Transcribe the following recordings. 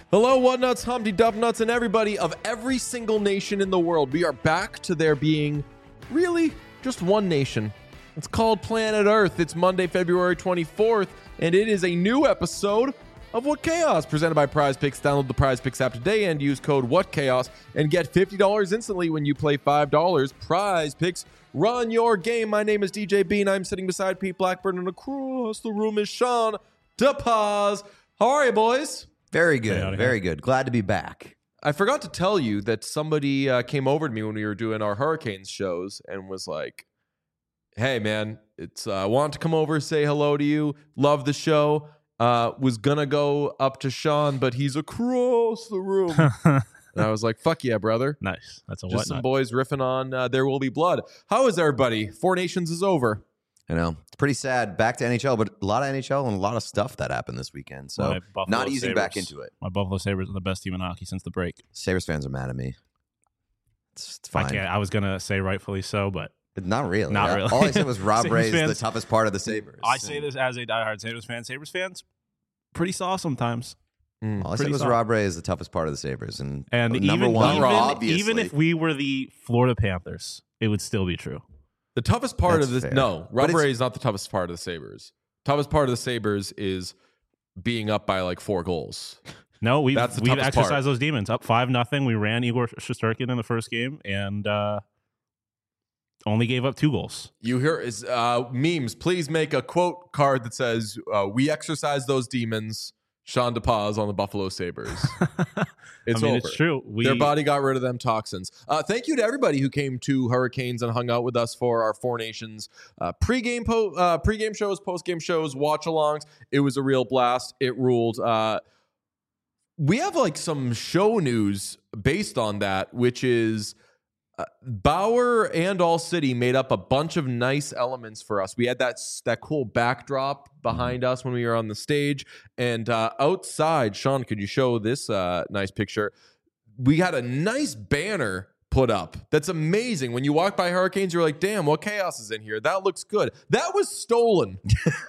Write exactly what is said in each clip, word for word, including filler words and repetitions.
Hello, What Nuts, Humpty Duff Nuts, and everybody of every single nation in the world. We are back to there being really just one nation. It's called Planet Earth. It's Monday, February twenty-fourth, and it is a new episode of What Chaos, presented by Prize Picks. Download the Prize Picks app today and use code What Chaos and get fifty dollars instantly when you play five dollars. Prize Picks, run your game. My name is D J Bean. I'm sitting beside Pete Blackburn, and across the room is Sean DePaz. How are you, boys? Very good. Very good. Glad to be back. I forgot to tell you that somebody uh, came over to me when we were doing our Hurricanes shows and was like, hey, man, it's I uh, want to come over, say hello to you. Love the show. Uh, was going to go up to Sean, but he's across the room. And I was like, fuck yeah, brother. Nice. That's a Just whatnot. some boys riffing on uh, There Will Be Blood. How is everybody? Four Nations is over. I know. It's pretty sad. Back to N H L, but a lot of N H L and a lot of stuff that happened this weekend. So not easing Sabres. back into it. My Buffalo Sabres are the best team in hockey since the break. Sabres fans are mad at me. It's, it's fine. I, can't, I was going to say rightfully so, but But not really. Not really. All I said was Rob Sabres Ray is the fans- toughest part of the Sabres. I say this as a diehard Sabres fan. Sabres fans, pretty soft sometimes. All I said pretty was soft. Rob Ray is the toughest part of the Sabres. And, And number even, one, even, obviously. even if we were the Florida Panthers, it would still be true. The toughest part That's of this, fair. no, But Rob it's- Ray is not the toughest part of the Sabres. Toughest part of the Sabres is being up by like four goals. No, we've, That's the we've toughest exercised part. those demons. Up five nothing. We ran Igor Shesterkin in the first game and uh, only gave up two goals. You hear is uh, memes. Please make a quote card that says, uh, "We exercise those demons." Sean DePaz on the Buffalo Sabres. It's I mean, over. it's true. We, Their body got rid of them toxins. Uh, thank you to everybody who came to Hurricanes and hung out with us for our Four Nations uh, pregame po- uh, pregame shows, postgame shows, watch-alongs. It was a real blast. It ruled. Uh, we have like some show news based on that, which is uh, Bauer and All City made up a bunch of nice elements for us. We had that that cool backdrop behind us when we were on the stage, and uh, outside, Sean, could you show this uh, nice picture? We had a nice banner put up. That's amazing. When you walk by Hurricanes, you're like, damn, what chaos is in here? That looks good. That was stolen.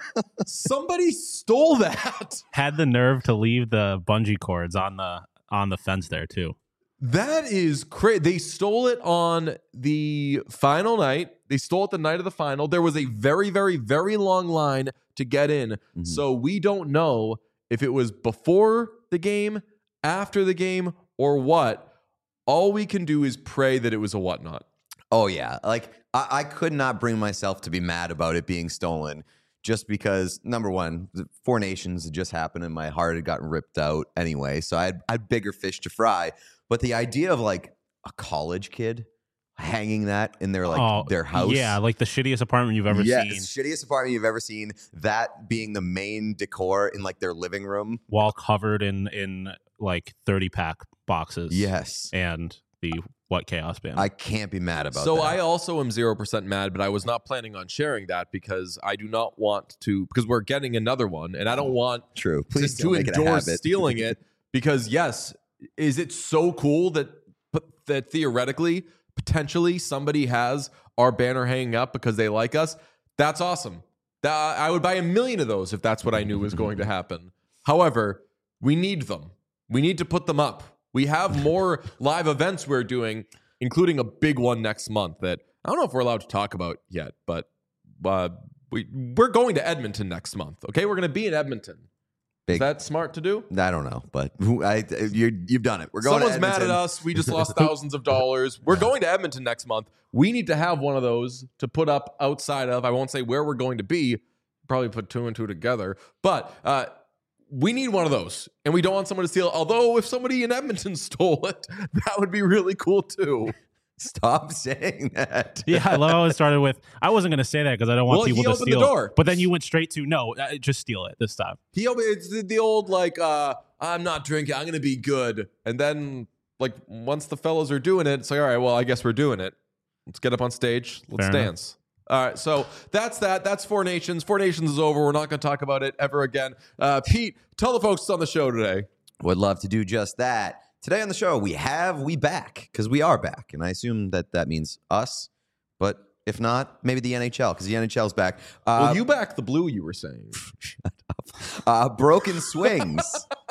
Somebody stole that. had the nerve to leave the bungee cords on the on the fence there too. That is crazy. They stole it on the final night. They stole it the night of the final. There was a very, very, very long line to get in. Mhm. So we don't know if it was before the game, after the game, or what. All we can do is pray that it was a whatnot. Oh, yeah. Like, I, I could not bring myself to be mad about it being stolen just because, number one, the Four Nations had just happened and my heart had gotten ripped out anyway. So I had, I had bigger fish to fry. But the idea of, like, a college kid hanging that in their, like, oh, their house. Yeah, like the shittiest apartment you've ever yes, seen. shittiest apartment you've ever seen. That being the main decor in, like, their living room. Wall covered in in like thirty pack boxes. Yes. And the What Chaos band. I can't be mad about So that. I also am zero percent mad, but I was not planning on sharing that because I do not want to, because we're getting another one, and I don't want True. to, Please to don't make it a endorse habit. stealing it because, yes, is it so cool that that theoretically, potentially, somebody has our banner hanging up because they like us? That's awesome. That, I would buy a million of those if that's what I knew was going to happen. However, we need them. We need to put them up. We have more live events we're doing, including a big one next month that I don't know if we're allowed to talk about yet, but uh, we, we're going to Edmonton next month, okay? We're going to be in Edmonton. Is Big- that smart to do? I don't know, but who- I, you're, you've done it. We're going Someone's to mad at Edmonton. us. We just lost thousands of dollars. We're going to Edmonton next month. We need to have one of those to put up outside of. I won't say where we're going to be. Probably put two and two together. But uh, we need one of those. And we don't want someone to steal. Although if somebody in Edmonton stole it, that would be really cool too. Stop saying that. yeah, I love how it started with. I wasn't going to say that because I don't want Well, he people to opened the steal. door. But then you went straight to no, uh, just steal it this time. He it's the, the old like uh, I'm not drinking. I'm going to be good. And then like once the fellas are doing it, it's like, all right, well, I guess we're doing it. Let's get up on stage. Let's Fair enough. dance. All right, so that's that. That's Four Nations. Four Nations is over. We're not going to talk about it ever again. Uh, Pete, tell the folks on the show today. Would love to do just that. Today on the show, we have We Back, because we are back. And I assume that that means us. But if not, maybe the N H L, because the N H L's back. Uh, Well, you back the blue, you were saying. uh, Broken Swings.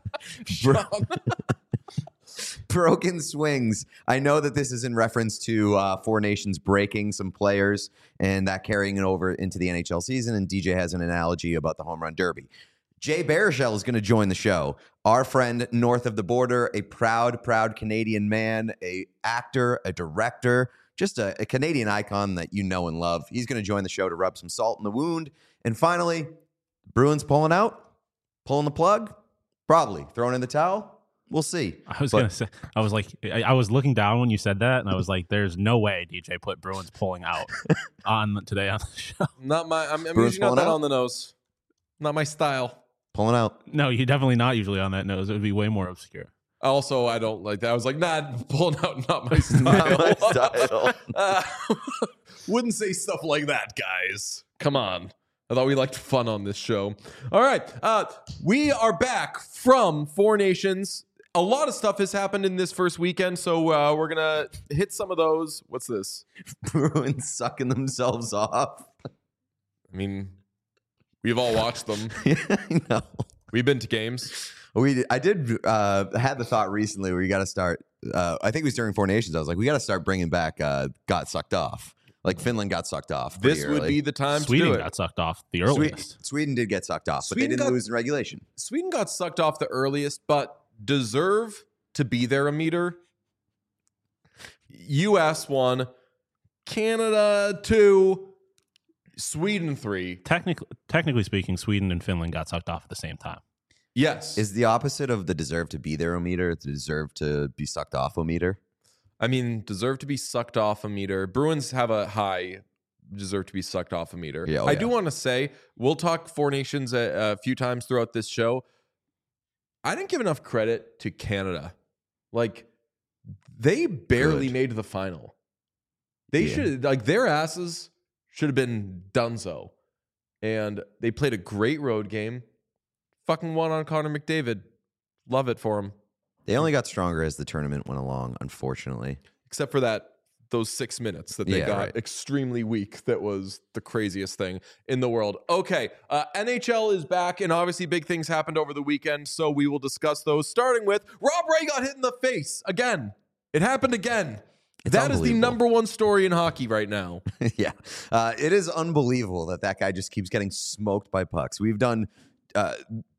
Sean. Broken swings. I know that this is in reference to uh, Four Nations breaking some players and that carrying it over into the N H L season. And D J has an analogy about the home run derby. Jay Baruchel is going to join the show. Our friend north of the border, a proud, proud Canadian man, a actor, a director, just a, a Canadian icon that you know and love. He's going to join the show to rub some salt in the wound. And finally, Bruins pulling out, pulling the plug, probably throwing in the towel. We'll see. I was But- gonna say, I was like, I, I was looking down when you said that, and I was like, "There's no way D J put Bruins pulling out on today on the show." Not my. I'm, I'm Bruins usually not pulling that out? on the nose. Not my style. Pulling out. No, you're definitely not usually on that nose. It would be way more obscure. Also, I don't like that. I was like, nah, pulling out, not my style. Not my style. Uh, wouldn't say stuff like that, guys. Come on. I thought we liked fun on this show. All right. Uh, we are back from Four Nations. A lot of stuff has happened in this first weekend, so uh, we're going to hit some of those. What's this? Bruins sucking themselves off. I mean, we've all watched them. Yeah, I know. We've been to games. We, I did uh, had the thought recently where you got to start. Uh, I think it was during Four Nations. I was like, we got to start bringing back. Uh, got sucked off. Like Finland got sucked off. This pretty would early. be the time Sweden to do it. got sucked off the Sweden, earliest. Sweden did get sucked off, but Sweden they didn't got- lose in regulation. Sweden got sucked off the earliest, but deserve to be there a meter. U S one, Canada two, Sweden three. Technically, technically speaking, Sweden and Finland got sucked off at the same time. Yes. Is the opposite of the deserve to be there o meter the deserve to be sucked off o meter? I mean, deserve to be sucked off a meter. Bruins have a high deserve to be sucked off a meter. Yeah, oh I yeah. do want to say, we'll talk Four Nations a, a few times throughout this show. I didn't give enough credit to Canada. Like, they barely Good. made the final. They Yeah. should, like, their asses should have been donezo. And they played a great road game. Fucking won on Connor McDavid. Love it for him. They only got stronger as the tournament went along, unfortunately. Except for that, those six minutes that they Yeah, got right. extremely weak. That was the craziest thing in the world. Okay, uh, N H L is back, and obviously big things happened over the weekend, so we will discuss those. Starting with Rob Ray got hit in the face again. It happened again. It's That is the unbelievable. number one story in hockey right now. yeah. Uh, it is unbelievable that that guy just keeps getting smoked by pucks. We've done. Uh,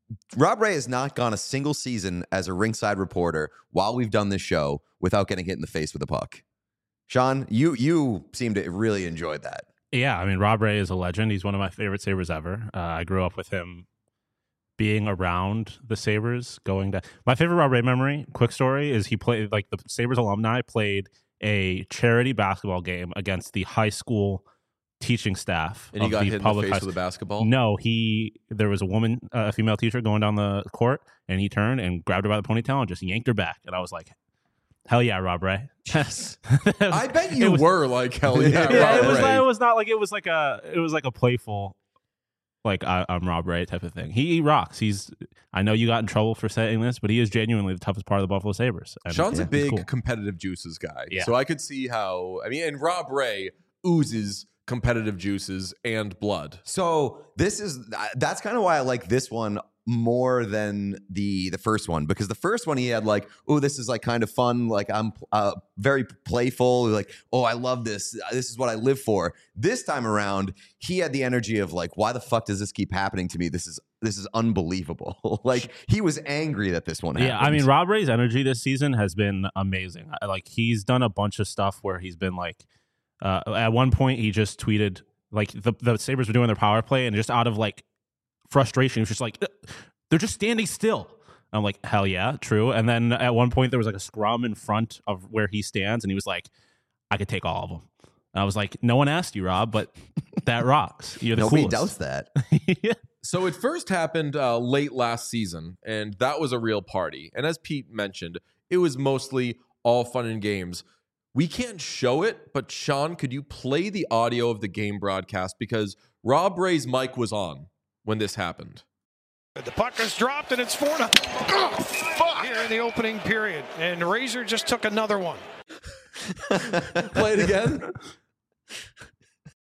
Rob Ray has not gone a single season as a ringside reporter while we've done this show without getting hit in the face with a puck. Sean, you you seem to really enjoyed that. Yeah, I mean, Rob Ray is a legend. He's one of my favorite Sabres ever. Uh, I grew up with him being around the Sabres, going to my favorite Rob Ray memory. Quick story is he played like the Sabres alumni played a charity basketball game against the high school teaching staff. And he of got the hit in the public face high with a basketball. No, he there was a woman, uh, a female teacher going down the court, and he turned and grabbed her by the ponytail and just yanked her back. And I was like, "Hell yeah, Rob Ray!" Yes. It was- I bet it you was- were like, hell yeah, yeah, Rob it was. Ray. Not, it was not like it was like a. It was like a playful, like I, I'm Rob Ray type of thing. He, he rocks. He's. I know you got in trouble for saying this, but he is genuinely the toughest part of the Buffalo Sabres. And Sean's a he's big cool. competitive juices guy. Yeah. So I could see how, I mean, and Rob Ray oozes competitive juices and blood. So this is that's kind of why I like this one more than the the first one, because the first one he had like, oh, this is like kind of fun, like I'm uh, very playful, like, oh, I love this, this is what I live for. This time around he had the energy of like, why the fuck does this keep happening to me? This is this is unbelievable. Like he was angry that this one happened. Yeah, I mean, Rob Ray's energy this season has been amazing. I- Like he's done a bunch of stuff where he's been like, uh, at one point he just tweeted like the the Sabres were doing their power play, and just out of like frustration, he was just like, they're just standing still. I'm like, hell yeah, true. And then at one point there was like a scrum in front of where he stands, and he was like, I could take all of them. And I was like, no one asked you, Rob, but that rocks. You're the nobody coolest. doubts that. Yeah. So it first happened uh, late last season, and that was a real party. And as Pete mentioned, it was mostly all fun and games. We can't show it, but Sean, could you play the audio of the game broadcast? Because Rob Ray's mic was on when this happened. The puck is dropped, and it's four to oh, fuck. Here in the opening period. And Razor just took another one. Play it again. The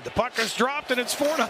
The puck is dropped, and it's four to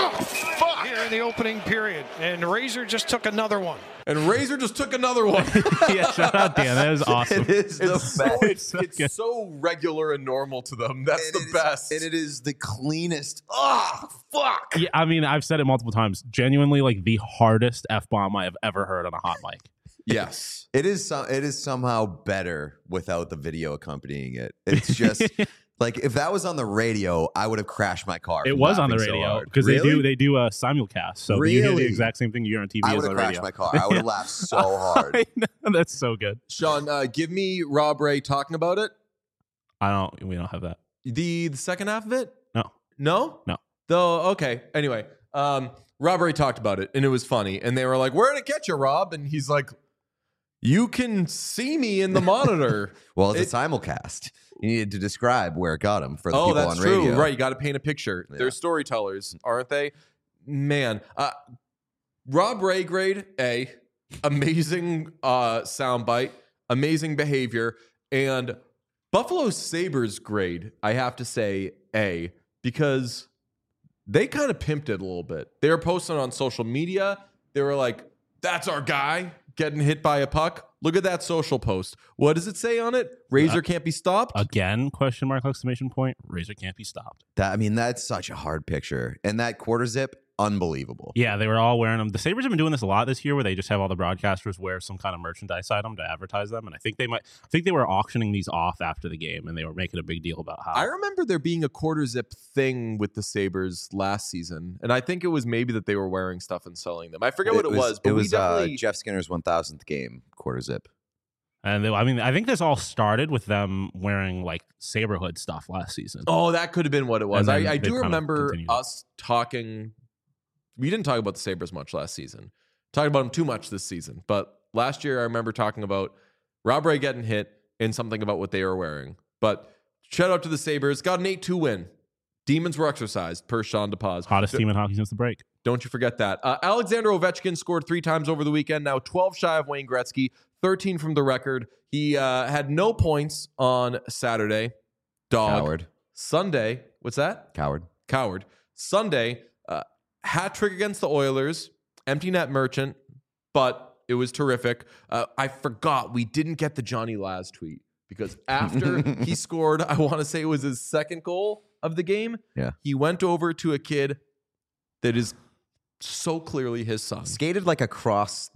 oh, here in the opening period. And Razor just took another one. And Razor just took another one. Yeah, shout out Dan. That was awesome. It is the It's, so, best. it's, it's so regular and normal to them. That's And the it is- best. and it is the cleanest. Oh, fuck. Yeah, I mean, I've said it multiple times. Genuinely, like the hardest F bomb I have ever heard on a hot mic. Yes. It is some. It is somehow better without the video accompanying it. It's just like if that was on the radio, I would have crashed my car. It from was on the laughing so radio hard. because they do Really? they do a simulcast. So you hear the Really? exact same thing you hear on T V I as would on have the crashed radio. my car. I would have laughed so hard. I know, that's so good. Sean, uh, give me Rob Ray talking about it. I don't. We don't have that. The, the second half of it? No. No? No. Though, okay. Anyway, um, Rob Ray talked about it, and it was funny. And they were like, where did it get you, Rob? And he's like, you can see me in the monitor. Well, it's It- a simulcast. You needed to describe where it got him for the Oh, people that's on true. radio. Right. You got to paint a picture. Yeah. They're storytellers, aren't they? Man, uh, Rob Ray grade A, amazing uh, soundbite, amazing behavior, and Buffalo Sabres grade, I have to say A, because they kind of pimped it a little bit. They were posting on social media. They were like, that's our guy getting hit by a puck. Look at that social post. What does it say on it? Razor Uh, can't be stopped? Again, question mark, exclamation point. Razor can't be stopped. That, I mean, that's such a hard picture. And that quarter zip, unbelievable. Yeah, they were all wearing them. The Sabres have been doing this a lot this year where they just have all the broadcasters wear some kind of merchandise item to advertise them. And I think they might, I think they were auctioning these off after the game and they were making a big deal about how. I remember there being a quarter zip thing with the Sabres last season. And I think it was maybe that they were wearing stuff and selling them. I forget what it was, but it we was uh, definitely. Jeff Skinner's one thousandth game quarter zip. And they, I mean, I think this all started with them wearing like Saberhood stuff last season. oh, that could have been what it was. And then I, I they do kind of remember continued it. us talking. We didn't talk about the Sabres much last season. Talked about them too much this season. But last year, I remember talking about Rob Ray getting hit and something about what they were wearing. But shout out to the Sabres. Got an eight two win. Demons were exercised, per Sean DePaz. Hottest team in hockey since the break. Don't you forget that. Uh, Alexander Ovechkin scored three times over the weekend, now twelve shy of Wayne Gretzky, thirteen from the record. He uh, had no points on Saturday. Dog. Coward. Sunday, what's that? Coward. Coward. Sunday, uh, hat trick against the Oilers, empty net merchant, but it was terrific. Uh, I forgot we didn't get the Johnny Laz tweet because after he scored, I want to say it was his second goal of the game. Yeah. He went over to a kid that is so clearly his son. Skated like across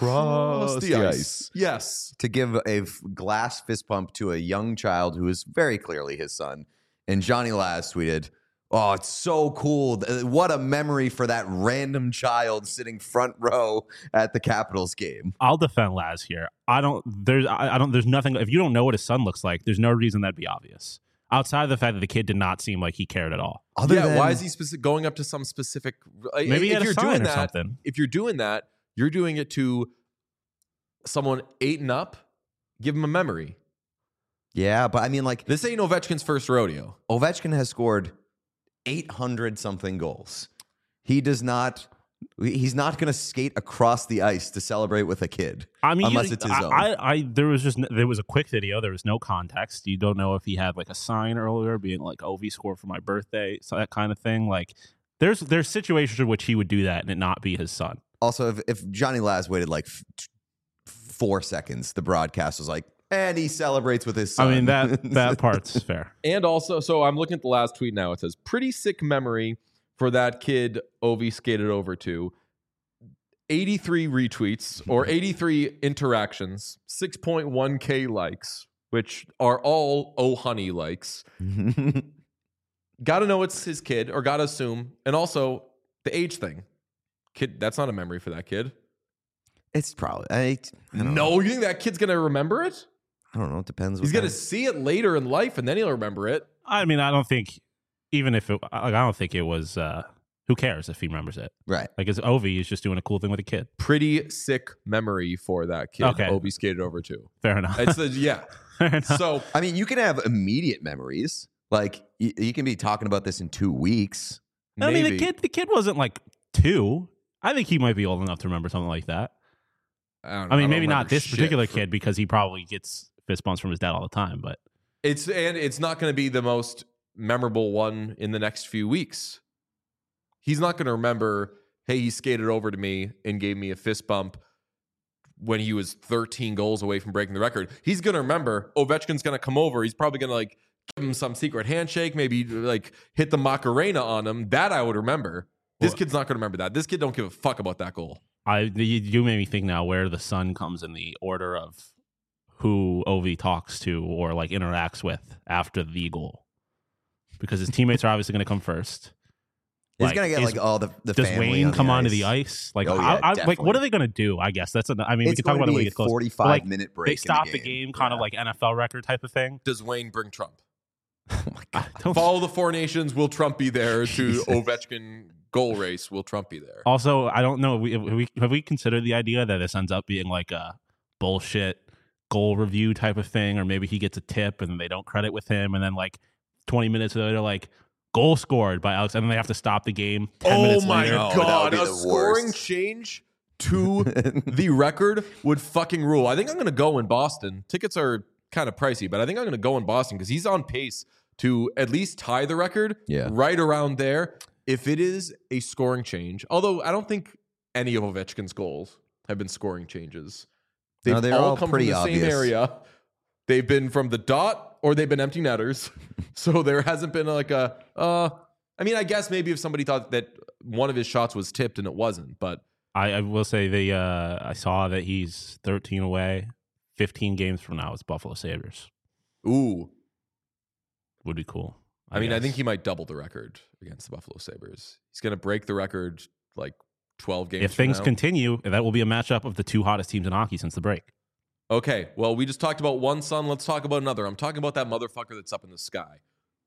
across the, ice. Yes. to give a f- glass fist pump to a young child who is very clearly his son. And Johnny Laz tweeted, "Oh, it's so cool. Th- What a memory for that random child sitting front row at the Capitals game." I'll defend Laz here. I don't. There's. I, I don't. There's nothing. If you don't know what his son looks like, there's no reason that'd be obvious. Outside of the fact that the kid did not seem like he cared at all. Other yeah, than, why is he specific, going up to some specific? Maybe he if had a you're sign doing or that, something. If you're doing that, you're doing it to someone eight and up. Give him a memory. Yeah, but I mean, like, This ain't Ovechkin's first rodeo. Ovechkin has scored eight hundred something goals. He does not. He's not going to skate across the ice to celebrate with a kid. I mean, unless you- it's his I, own. I, I, there was just there was a quick video. There was no context. You don't know if he had like a sign earlier, being like "Ovi scored for my birthday," so that kind of thing. Like, there's there's situations in which he would do that and it not be his son. Also, if, if Johnny Laz waited like f- t- four seconds, the broadcast was like, and he celebrates with his son. I mean that that part's fair. And also, so I'm looking at the last tweet now. It says, pretty sick memory for that kid Ovi skated over to. eighty-three retweets or eighty-three interactions, six point one K likes, which are all oh honey likes. Got to know it's his kid, or got to assume. And also the age thing. Kid, that's not a memory for that kid. It's probably. I, I don't No, know. you think that kid's going to remember it? I don't know. It depends. He's what going to kind- see it later in life and then he'll remember it. I mean, I don't think even if it, like, I don't think it was. Uh, who cares if he remembers it? Right. Like, it's Ovi is just doing a cool thing with a kid. Pretty sick memory for that kid. Okay. Obi skated over to. Fair enough. It's the, yeah. Fair enough. So I mean, you can have immediate memories. Like you, you can be talking about this in two weeks. I mean, maybe. the kid, the kid wasn't like two. I think he might be old enough to remember something like that. I, don't know, I mean, don't maybe not remember this shit particular for- kid because he probably gets fist bumps from his dad all the time. But It's and it's not going to be the most memorable one in the next few weeks. He's not going to remember, hey, he skated over to me and gave me a fist bump when he was thirteen goals away from breaking the record. He's going to remember Ovechkin's going to come over. He's probably going to like give him some secret handshake, maybe like hit the Macarena on him. That I would remember. This Well, kid's not going to remember that. This kid don't give a fuck about that goal. I you, you made me think now where the Sun comes in the order of who Ovi talks to or like interacts with after the goal, because his teammates are obviously going to come first. He's Like, gonna get is- like all the the Does family Wayne on the come onto ice. the ice? Like, Oh, I, yeah, I, like, definitely. what are they going to do? I guess that's. A, I mean, we It's can talk going about to it when be we a get close. But, forty-five like, minute break. They in stop the the game, game, kind of Yeah. like N F L record type of thing. Does Wayne bring Trump? Oh my god. I don't- Follow the Four Nations. Will Trump be there to Jesus. Ovechkin goal race? Will Trump be there? Also, I don't know. We, have we have we considered the idea that this ends up being like a bullshit goal review type of thing, or maybe he gets a tip and they don't credit with him, and then like twenty minutes later, like goal scored by Alex, and then they have to stop the game. Ten Oh minutes my later. No, that god! would be A the scoring worst. change to the record would fucking rule. I think I'm going to go in Boston. Tickets are kind of pricey, but I think I'm going to go in Boston because he's on pace to at least tie the record. Yeah. Right around there. If it is a scoring change, although I don't think any of Ovechkin's goals have been scoring changes. They've No, they're all all come pretty from the same obvious. area. They've been from the dot or they've been empty netters. So there hasn't been like a, uh, I mean, I guess maybe if somebody thought that one of his shots was tipped and it wasn't, but I, I will say the uh, I saw that he's thirteen away. fifteen games from now, it's Buffalo Sabres. ooh, Would be cool. I mean, I guess. think he might double the record against the Buffalo Sabres. He's going to break the record like twelve games if from things now. continue, that will be a matchup of the two hottest teams in hockey since the break. Okay, well, we just talked about one Sun. Let's talk about another. I'm talking about that motherfucker that's up in the sky.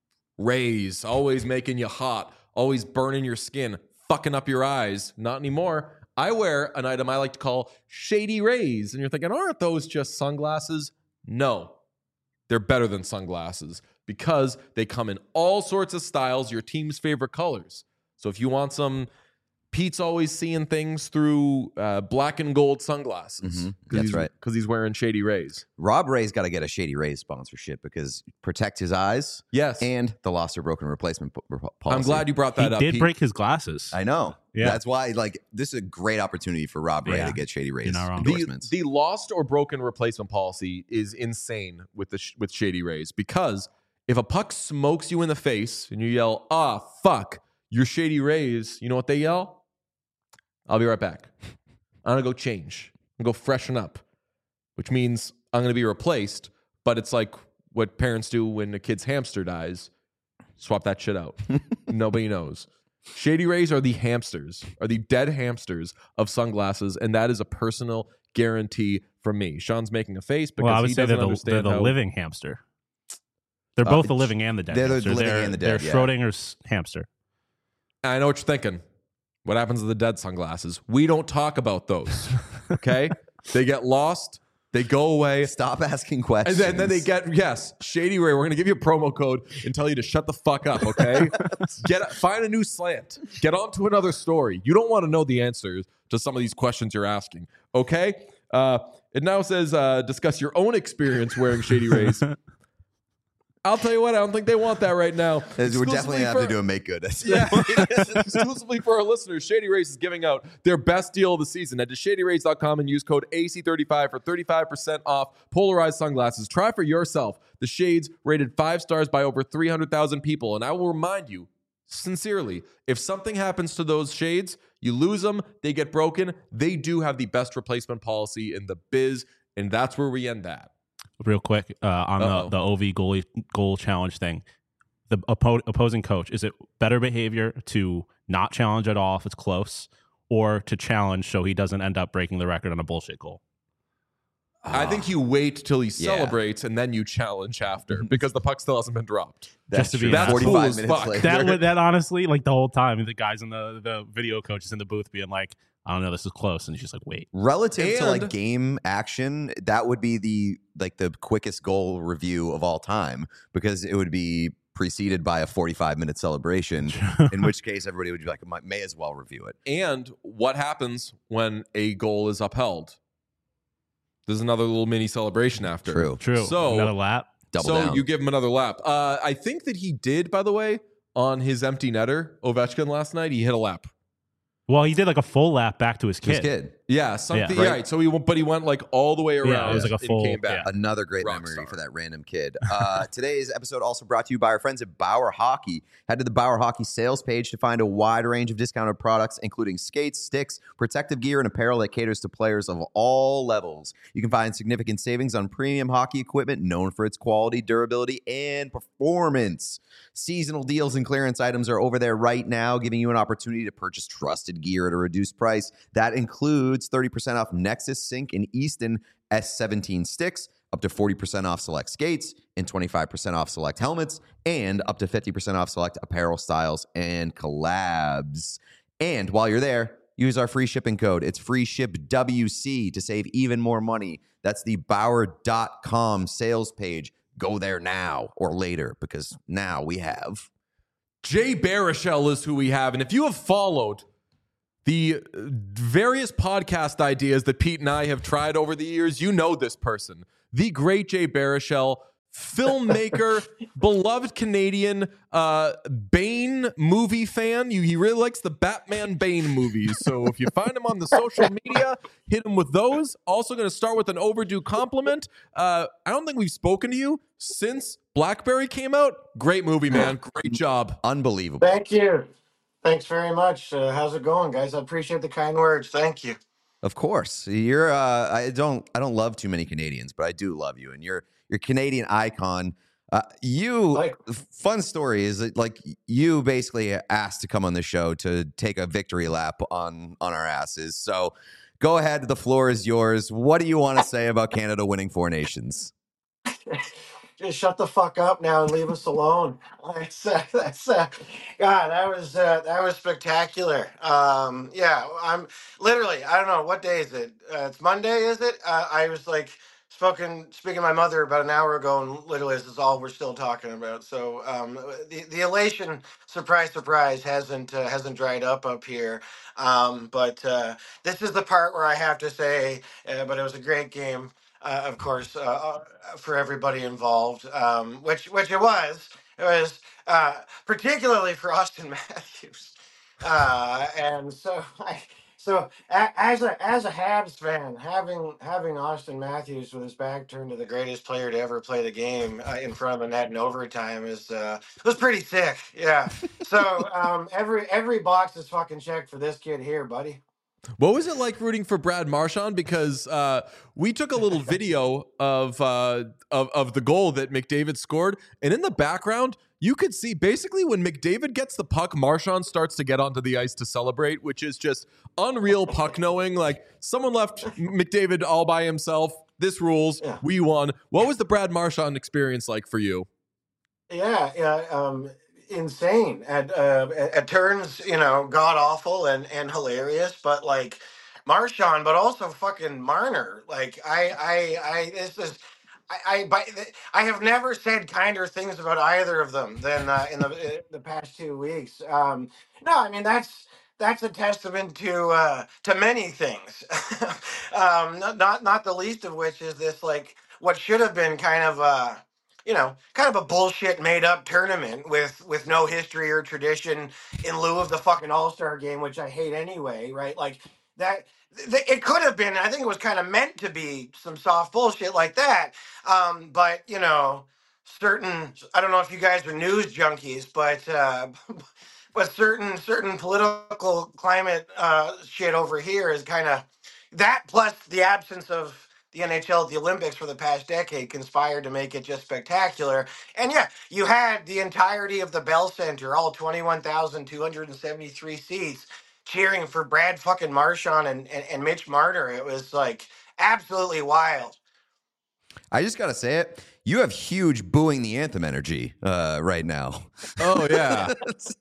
Rays, always making you hot, always burning your skin, fucking up your eyes. Not anymore. I wear an item I like to call Shady Rays. And you're thinking, aren't those just sunglasses? No, they're better than sunglasses because they come in all sorts of styles, your team's favorite colors. So if you want some, Pete's always seeing things through uh, black and gold sunglasses. Mhm. That's he's, right. Because he's wearing Shady Rays. Rob Ray's got to get a Shady Rays sponsorship because protect his eyes Yes. and the lost or broken replacement po- policy. I'm glad you brought He that up. did Pete. break his glasses. I know. Yeah. That's why, like, this is a great opportunity for Rob Ray Yeah. to get Shady Rays not wrong. the, endorsements. the lost or broken replacement policy is insane with the sh- with Shady Rays because if a puck smokes you in the face and you yell, ah, fuck, you're Shady Rays, you know what they yell? I'll be right back. I'm going to go change. I'm going to go freshen up, which means I'm going to be replaced. But it's like what parents do when a kid's hamster dies. Swap that shit out. Nobody knows. Shady Rays are the hamsters, are the dead hamsters of sunglasses. And that is a personal guarantee from me. Sean's making a face because well, I would he say doesn't they're the, they're understand the how... living hamster. They're Uh, both the living and the dead they're the hamster. living they're, and the dead, They're yeah. Schrodinger's hamster. I know what you're thinking. What happens to the dead sunglasses? We don't talk about those. Okay? They get lost. They go away. Stop asking And questions. then, then they get, yes, Shady Ray, we're going to give you a promo code and tell you to shut the fuck up, okay? Get Find a new slant. Get on to another story. You don't want to know the answers to some of these questions you're asking, okay? Uh, it now says uh, discuss your own experience wearing Shady Rays. I'll tell you what, I don't think they want that right now. We're definitely going Exclusively to have for- to do a make good. Yeah, exclusively for our listeners, Shady Rays is giving out their best deal of the season. Head to shady rays dot com and use code A C thirty-five for thirty-five percent off polarized sunglasses. Try for yourself the shades rated five stars by over three hundred thousand people. And I will remind you, sincerely, if something happens to those shades, you lose them, they get broken, they do have the best replacement policy in the biz, and that's where we end that. Real quick, uh, on Uh-oh. the, the O V goalie goal challenge thing, the oppo- opposing coach, is it better behavior to not challenge at all if it's close, or to challenge so he doesn't end up breaking the record on a bullshit goal? I think you wait till he Yeah. celebrates and then you challenge after because the puck still hasn't been dropped. That's Just to be true. honest. That's cool forty-five as minutes fuck. later. That would, that honestly, like the whole time, the guys in the the video coach is in the booth being like, I don't know, this is close, and he's just like, wait. Relative to like And- game action, that would be the like the quickest goal review of all time because it would be preceded by a forty-five minute celebration. In which case, everybody would be like, "Might- may as well review it. And what happens when a goal is upheld? There's another little mini celebration after. True. True. So- Another lap. Double so down. you give him another lap. Uh, I think that he did, by the way, on his empty netter, Ovechkin last night. He hit a lap. Well, he did like a full lap back to his kid. His kid. Yeah, something. Yeah. Yeah, right. So he went, but he went like all the way around. Yeah, it was like a and full- came back. yeah. Another great Rock memory star. for that random kid. Uh, today's episode also brought to you by our friends at Bauer Hockey. Head to the Bauer Hockey sales page to find a wide range of discounted products, including skates, sticks, protective gear, and apparel that caters to players of all levels. You can find significant savings on premium hockey equipment known for its quality, durability, and performance. Seasonal deals and clearance items are over there right now, giving you an opportunity to purchase trusted gear at a reduced price. That includes thirty percent off Nexus, Sync, and Easton S seventeen sticks, up to forty percent off select skates, and twenty-five percent off select helmets, and up to fifty percent off select apparel styles and collabs. And while you're there, use our free shipping code. It's free ship W C to save even more money. That's the Bauer dot com sales page. Go there now or later, because now we have Jay Baruchel is who we have. And if you have followed the various podcast ideas that Pete and I have tried over the years, you know this person. The great Jay Baruchel, filmmaker, beloved Canadian, uh, Bane movie fan. You, he really likes the Batman Bane movies. So if you find him on the social media, hit him with those. Also going to start with an overdue compliment. Uh, I don't think we've spoken to you since Blackberry came out. Great movie, man. Great job. unbelievable. Thank you. Thanks very much. Uh, how's it going, guys? I appreciate the kind words. Thank you. Of course, you're. Uh, I don't. I don't love too many Canadians, but I do love you, and you're. You're a Canadian icon. Uh, you. Like- fun story is that like you basically asked to come on the show to take a victory lap on on our asses. So go ahead. The floor is yours. What do you want to say about Canada winning Four Nations? Just shut the fuck up now and leave us alone. That's uh, that's uh, God. That was uh, that was spectacular. Um, yeah, I'm literally. I don't know what day is it. Uh, it's Monday, is it? Uh, I was like spoken speaking to my mother about an hour ago, and literally this is all we're still talking about. So um, the the elation, surprise, surprise, hasn't uh, hasn't dried up up here. Um, but uh, this is the part where I have to say, uh, but it was a great game. Uh, of course, uh, uh, for everybody involved, um, which which it was. It was uh, particularly for Austin Matthews, uh, and so I, so a, as a as a Habs fan, having having Austin Matthews with his back turned to the greatest player to ever play the game uh, in front of a net in overtime is uh, was pretty sick. Yeah. So um, every every box is fucking checked for this kid here, buddy. What was it like rooting for Brad Marchand? Because uh, we took a little video of, uh, of of the goal that McDavid scored, and in the background, you could see basically when McDavid gets the puck, Marchand starts to get onto the ice to celebrate, which is just unreal puck knowing. Like someone left McDavid all by himself. This rules. Yeah. We won. What was the Brad Marchand experience like for you? Yeah, yeah, um, insane at uh, at, at turns, you know, god awful and and hilarious, but like Marchand, but also fucking Marner. Like I, I, I, this is. I, I, by, I have never said kinder things about either of them than uh, in the uh, the past two weeks. Um, no, I mean that's that's a testament to uh, to many things. um, not, not not the least of which is this like what should have been kind of uh, you know, kind of a bullshit made up tournament with with no history or tradition in lieu of the fucking All-Star game, which I hate anyway, right? Like that th- it could have been, I think it was kind of meant to be some soft bullshit like that. Um, but you know, certain I don't know if you guys are news junkies, but uh but certain certain political climate uh shit over here is kind of that plus the absence of the N H L at the Olympics for the past decade conspired to make it just spectacular. And yeah, you had the entirety of the Bell Center, all twenty-one thousand two hundred seventy-three seats, cheering for Brad fucking Marchand and, and, and Mitch Marner. It was like absolutely wild. I just gotta say it. You have huge booing the anthem energy uh, right now. Oh yeah.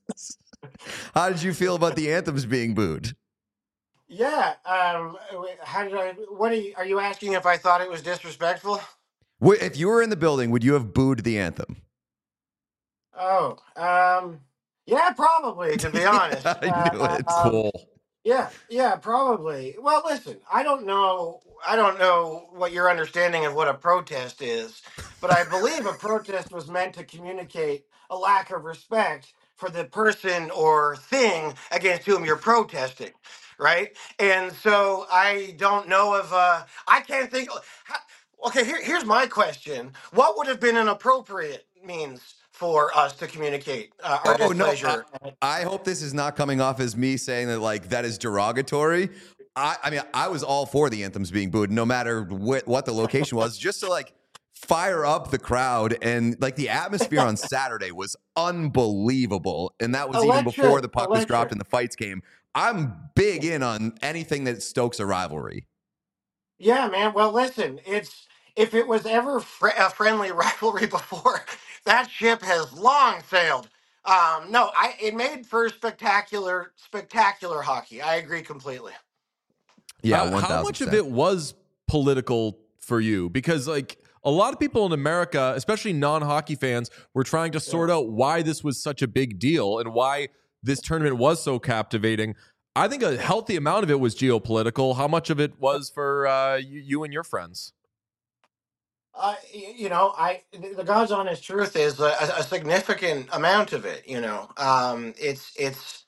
How did you feel about the anthems being booed? Yeah. Um, how did I? What are you? Are you asking if I thought it was disrespectful? Wh- If you were in the building, would you have booed the anthem? Oh, um, yeah, probably. To be honest, I knew Uh, it. um, Cool. Yeah, yeah, probably. Well, listen, I don't know I don't know what your understanding of what a protest is, but I believe a protest was meant to communicate a lack of respect for the person or thing against whom you're protesting, right? And so I don't know if uh, I can't think. How, okay, here, here's my question: what would have been an appropriate means for us to communicate uh, our Oh no, I, displeasure? I hope this is not coming off as me saying that like that is derogatory. I, I mean, I was all for the anthems being booed, no matter what, what the location was, just to like fire up the crowd. And like the atmosphere on Saturday was unbelievable, and that was even before Electric, the puck was dropped electric. and the fights came. I'm big in on anything that stokes a rivalry. Yeah, man. Well, listen, it's if it was ever fr- a friendly rivalry before, that ship has long sailed. Um, no, I it made for spectacular, spectacular hockey. I agree completely. Yeah, Uh, one how thousand much of percent. it was political for you? Because like a lot of people in America, especially non-hockey fans, were trying to sort out why this was such a big deal and why this tournament was so captivating. I think a healthy amount of it was geopolitical. How much of it was for uh, you, you and your friends? Uh, y- you know, I the God's honest truth is a, a significant amount of it. You know, um, it's it's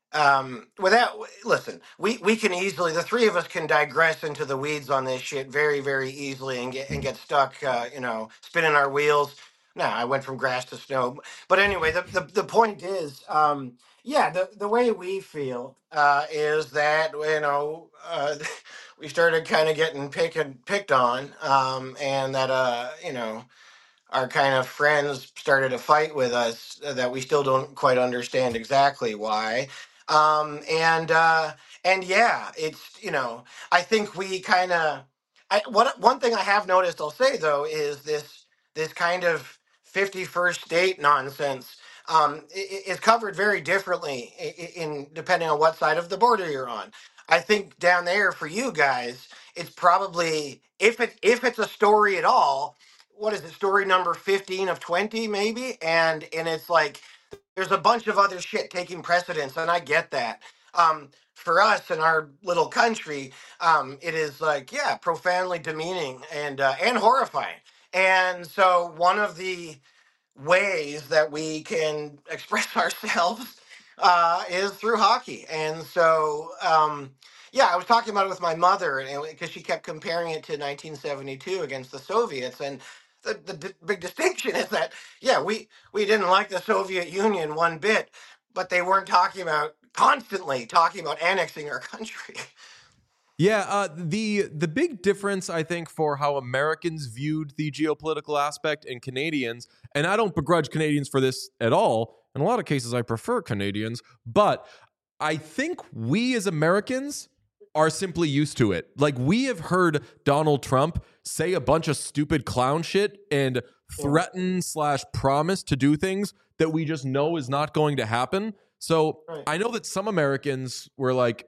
um without listen we we can easily the three of us can digress into the weeds on this shit very very easily and get and get stuck uh you know spinning our wheels. No, I went from grass to snow, but anyway, the the, the point is, um yeah, the the way we feel uh is that, you know, uh we started kind of getting picked picked on, um and that uh you know our kind of friends started a fight with us that we still don't quite understand exactly why. Um, and uh, and yeah, it's, you know, I think we kind of I what one thing I have noticed, I'll say though, is this this kind of fifty-first state nonsense um, i- i- is covered very differently i- i- in depending on what side of the border you're on. I think down there for you guys, it's probably, if it if it's a story at all, what is it, story number fifteen of twenty maybe, and and it's like there's a bunch of other shit taking precedence, and I get that. um for us in our little country, um it is like, yeah, profoundly demeaning and uh, and horrifying. And so one of the ways that we can express ourselves uh, is through hockey. And so, um, yeah, I was talking about it with my mother, and because she kept comparing it to nineteen seventy-two against the Soviets, and the, the d- big distinction is that, yeah, we we didn't like the Soviet Union one bit, but they weren't talking about constantly talking about annexing our country. Yeah, uh, the the big difference I think for how Americans viewed the geopolitical aspect and Canadians, and I don't begrudge Canadians for this at all. In a lot of cases, I prefer Canadians, but I think we as Americans are simply used to it. Like we have heard Donald Trump say a bunch of stupid clown shit and threaten slash promise to do things that we just know is not going to happen. So Right. I know that some Americans were like,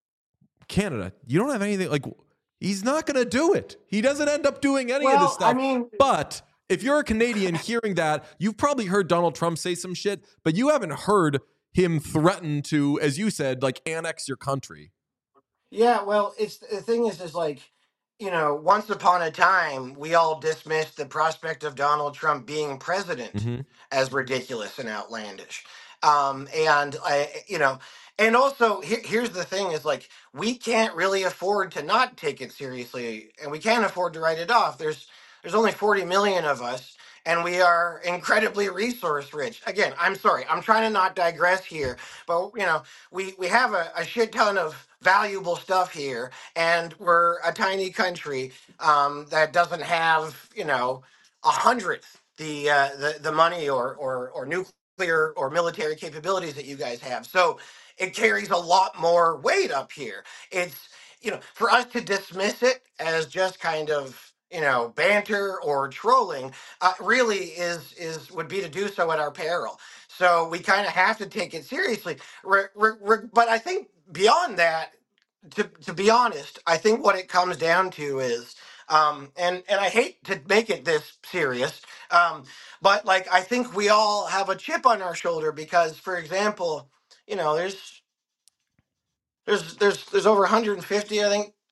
Canada, you don't have anything, like he's not going to do it. He doesn't end up doing any of this Well, I stuff. mean, But if you're a Canadian hearing that, you've probably heard Donald Trump say some shit, but you haven't heard him threaten to, as you said, like annex your country. yeah, well, it's the thing is, is like, you know, once upon a time, we all dismissed the prospect of Donald Trump being president Mm-hmm. as ridiculous and outlandish. Um, and I, you know, and also here, here's the thing: is like we can't really afford to not take it seriously, and we can't afford to write it off. There's there's only forty million of us, and we are incredibly resource rich. Again, I'm sorry, I'm trying to not digress here, but you know, we we have a, a shit ton of valuable stuff here, and we're a tiny country um, that doesn't have, you know, a hundredth the uh, the the money or or or nuclear or military capabilities that you guys have. So it carries a lot more weight up here. It's, you know, for us to dismiss it as just kind of, you know, banter or trolling, uh, really is is would be to do so at our peril. So we kind of have to take it seriously. Re- re- re- but I think beyond that, to to be honest, I think what it comes down to is, um, and and I hate to make it this serious, um, but like I think we all have a chip on our shoulder because, for example, you know, there's there's there's there's over one hundred fifty, I think,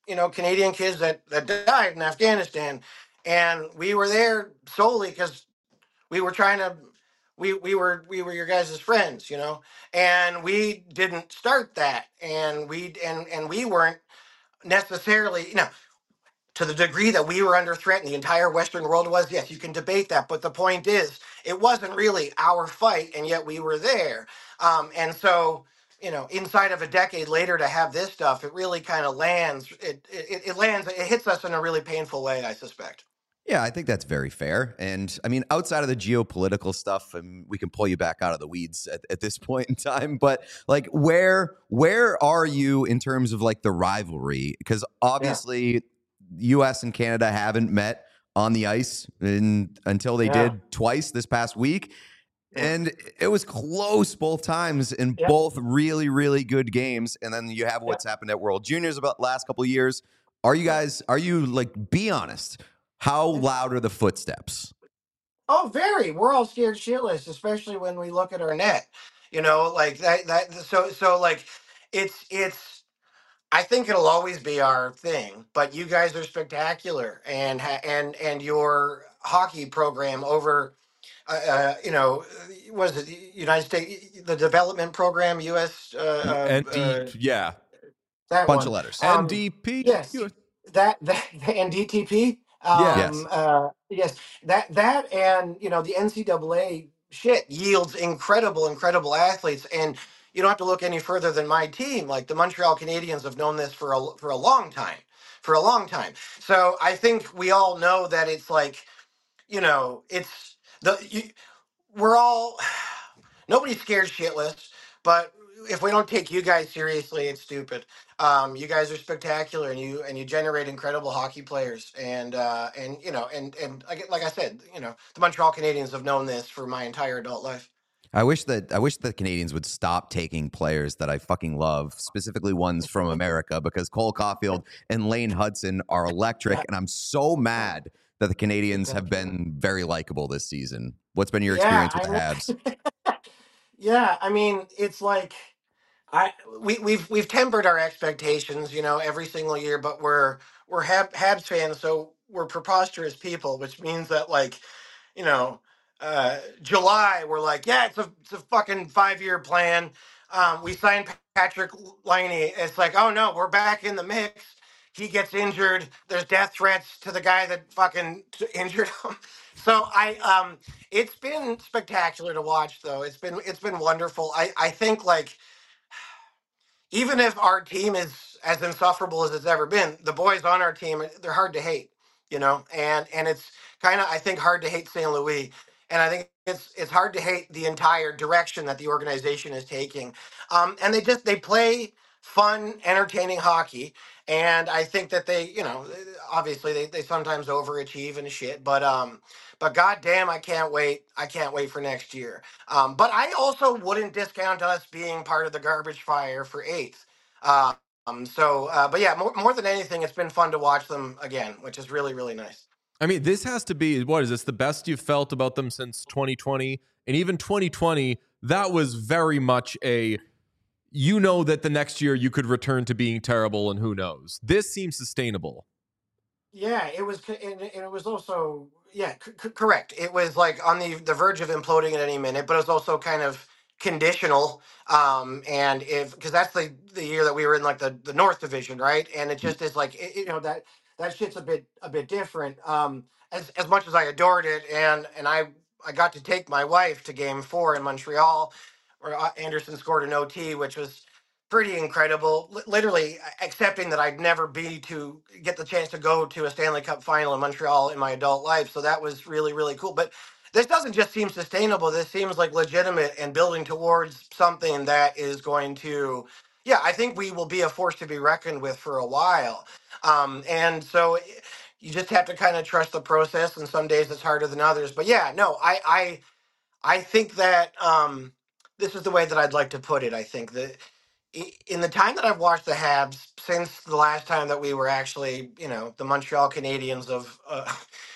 you know, Canadian kids that, that died in Afghanistan. And we were there solely because we were trying to, we, we were, we were your guys' friends, you know, and we didn't start that. And we, and, and we weren't necessarily, you know, to the degree that we were under threat and the entire Western world was, yes, you can debate that. But the point is, it wasn't really our fight, and yet we were there. Um, and so, you know, inside of a decade later to have this stuff, it really kind of lands, it, it, it lands, it hits us in a really painful way, I suspect. Yeah, I think that's very fair. And I mean, outside of the geopolitical stuff, and we can pull you back out of the weeds at, at this point in time, but like where where are you in terms of like the rivalry? Because obviously yeah. U S and Canada haven't met on the ice in, until they yeah. did twice this past week. And it was close both times in yep. both really, really good games. And then you have what's yep. happened at World Juniors about the last couple of years. Are you guys, are you like, be honest, how loud are the footsteps? Oh, very. We're all scared shitless, especially when we look at our net. You know, like that, that, so, so like, it's, it's, I think it'll always be our thing, but you guys are spectacular, and ha- and and your hockey program over, uh, uh, you know, was it the United States, the development program, U S, uh, N D, uh, yeah, that bunch one. of letters. Um, N D P, yes, that that and D T P. Um, yes, uh, yes, that that and you know the N C double A shit yields incredible, incredible athletes, and you don't have to look any further than my team. Like the Montreal Canadiens have known this for a for a long time, for a long time. So I think we all know that it's like, you know, it's the you, we're all nobody's scared shitless, but if we don't take you guys seriously, it's stupid. Um, you guys are spectacular, and you and you generate incredible hockey players, and uh, and you know, and and like like I said, you know, the Montreal Canadiens have known this for my entire adult life. I wish that I wish the Canadians would stop taking players that I fucking love, specifically ones from America, because Cole Caulfield and Lane Hudson are electric, yeah. and I'm so mad that the Canadians have been very likable this season. What's been your yeah, experience with I the Habs? Yeah, I mean, it's like I we we've we've tempered our expectations, you know, every single year, but we're we're Hab, Habs fans, so we're preposterous people, which means that like, you know, uh, July we're like, yeah, it's a it's a fucking five year plan. Um, we signed Patrick Laine. It's like, oh no, we're back in the mix. He gets injured. There's death threats to the guy that fucking t- injured him. So I um, it's been spectacular to watch, though. It's been it's been wonderful. I I think like even if our team is as insufferable as it's ever been, the boys on our team, they're hard to hate, you know, and and it's kind of, I think, hard to hate Saint Louis, and I think it's it's hard to hate the entire direction that the organization is taking, um, and they just they play fun, entertaining hockey, and I think that they, you know, obviously they, they sometimes overachieve and shit, but um, but goddamn, I can't wait, I can't wait for next year. Um, but I also wouldn't discount us being part of the garbage fire for eighth. Uh, um, so, uh, but yeah, more, more than anything, it's been fun to watch them again, which is really, really nice. I mean, this has to be, what is this, the best you've felt about them since twenty twenty? And even twenty twenty, that was very much a, you know that the next year you could return to being terrible, and who knows. This seems sustainable. Yeah, it was, and it was also, yeah, c- correct. It was like on the the verge of imploding at any minute, but it was also kind of conditional. Um, and if because that's the the year that we were in like the the North Division, right? And it just is like it, you know that that shit's a bit a bit different. Um, as as much as I adored it, and and I I got to take my wife to Game Four in Montreal, where uh, Anderson scored an O T, which was pretty incredible. L- literally accepting that I'd never be to get the chance to go to a Stanley Cup final in Montreal in my adult life. So that was really, really cool. But this doesn't just seem sustainable. This seems like legitimate and building towards something that is going to, yeah, I think we will be a force to be reckoned with for a while. Um, and so you just have to kind of trust the process. And some days it's harder than others. But yeah, no, I, I, I think that um, this is the way that I'd like to put it. I think that in the time that I've watched the Habs since the last time that we were actually, you know, the Montreal Canadiens of uh,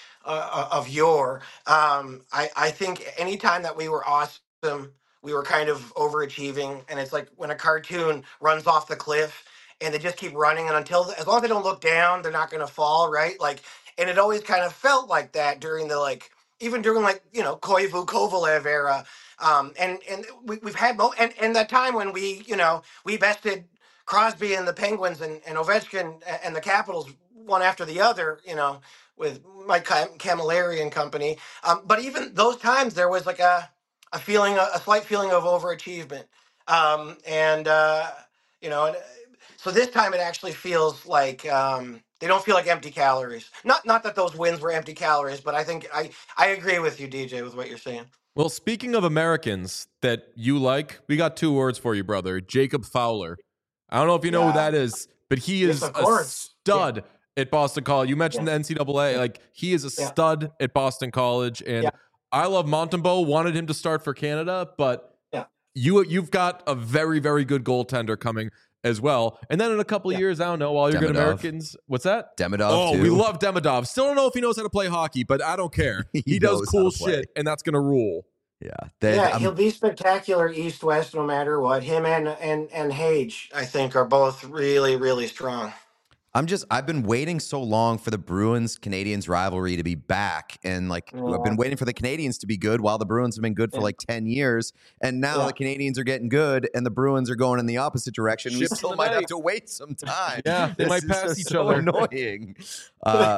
uh, of yore, um, I I think any time that we were awesome, we were kind of overachieving, and it's like when a cartoon runs off the cliff and they just keep running, and until as long as they don't look down, they're not going to fall, right? Like, and it always kind of felt like that during the like even during like you know Koivu Kovalev era, um, and and we, we've had mo- and and that time when we you know we bested Crosby and the Penguins and, and Ovechkin a- and the Capitals one after the other, you know, with Mike Cam- Camilleri and company. Um, but even those times, there was like a a feeling, a, a slight feeling of overachievement, um, and uh, you know, and, uh, so this time it actually feels like um, they don't feel like empty calories. Not not that those wins were empty calories, but I think I I agree with you, D J, with what you're saying. Well, speaking of Americans that you like, we got two words for you, brother. Jacob Fowler. I don't know if you know Yeah. who that is, but he Yes, is of a course. stud at Boston College. You mentioned Yeah. the N C double A. Like, he is a Yeah. stud at Boston College. And Yeah. I love Montembeault, wanted him to start for Canada, but Yeah. you, you've got a very, very good goaltender coming as well. And then in a couple of Yeah. years, I don't know, all your good Demidov. Americans. What's that? Demidov, Oh, too. we love Demidov. Still don't know if he knows how to play hockey, but I don't care. He He, does knows cool how to play. shit, and that's going to rule. Yeah. They, Yeah, I'm- he'll be spectacular east west no matter what. Him and and and Hage, I think, are both really really strong. I'm just I've been waiting so long for the Bruins Canadians rivalry to be back, and like Yeah. I've been waiting for the Canadians to be good while the Bruins have been good for Yeah. like ten years, and now Yeah. the Canadians are getting good and the Bruins are going in the opposite direction. We Ships in still the might have night. to wait some time. Yeah, they This might is pass just each so other. Annoying. Uh,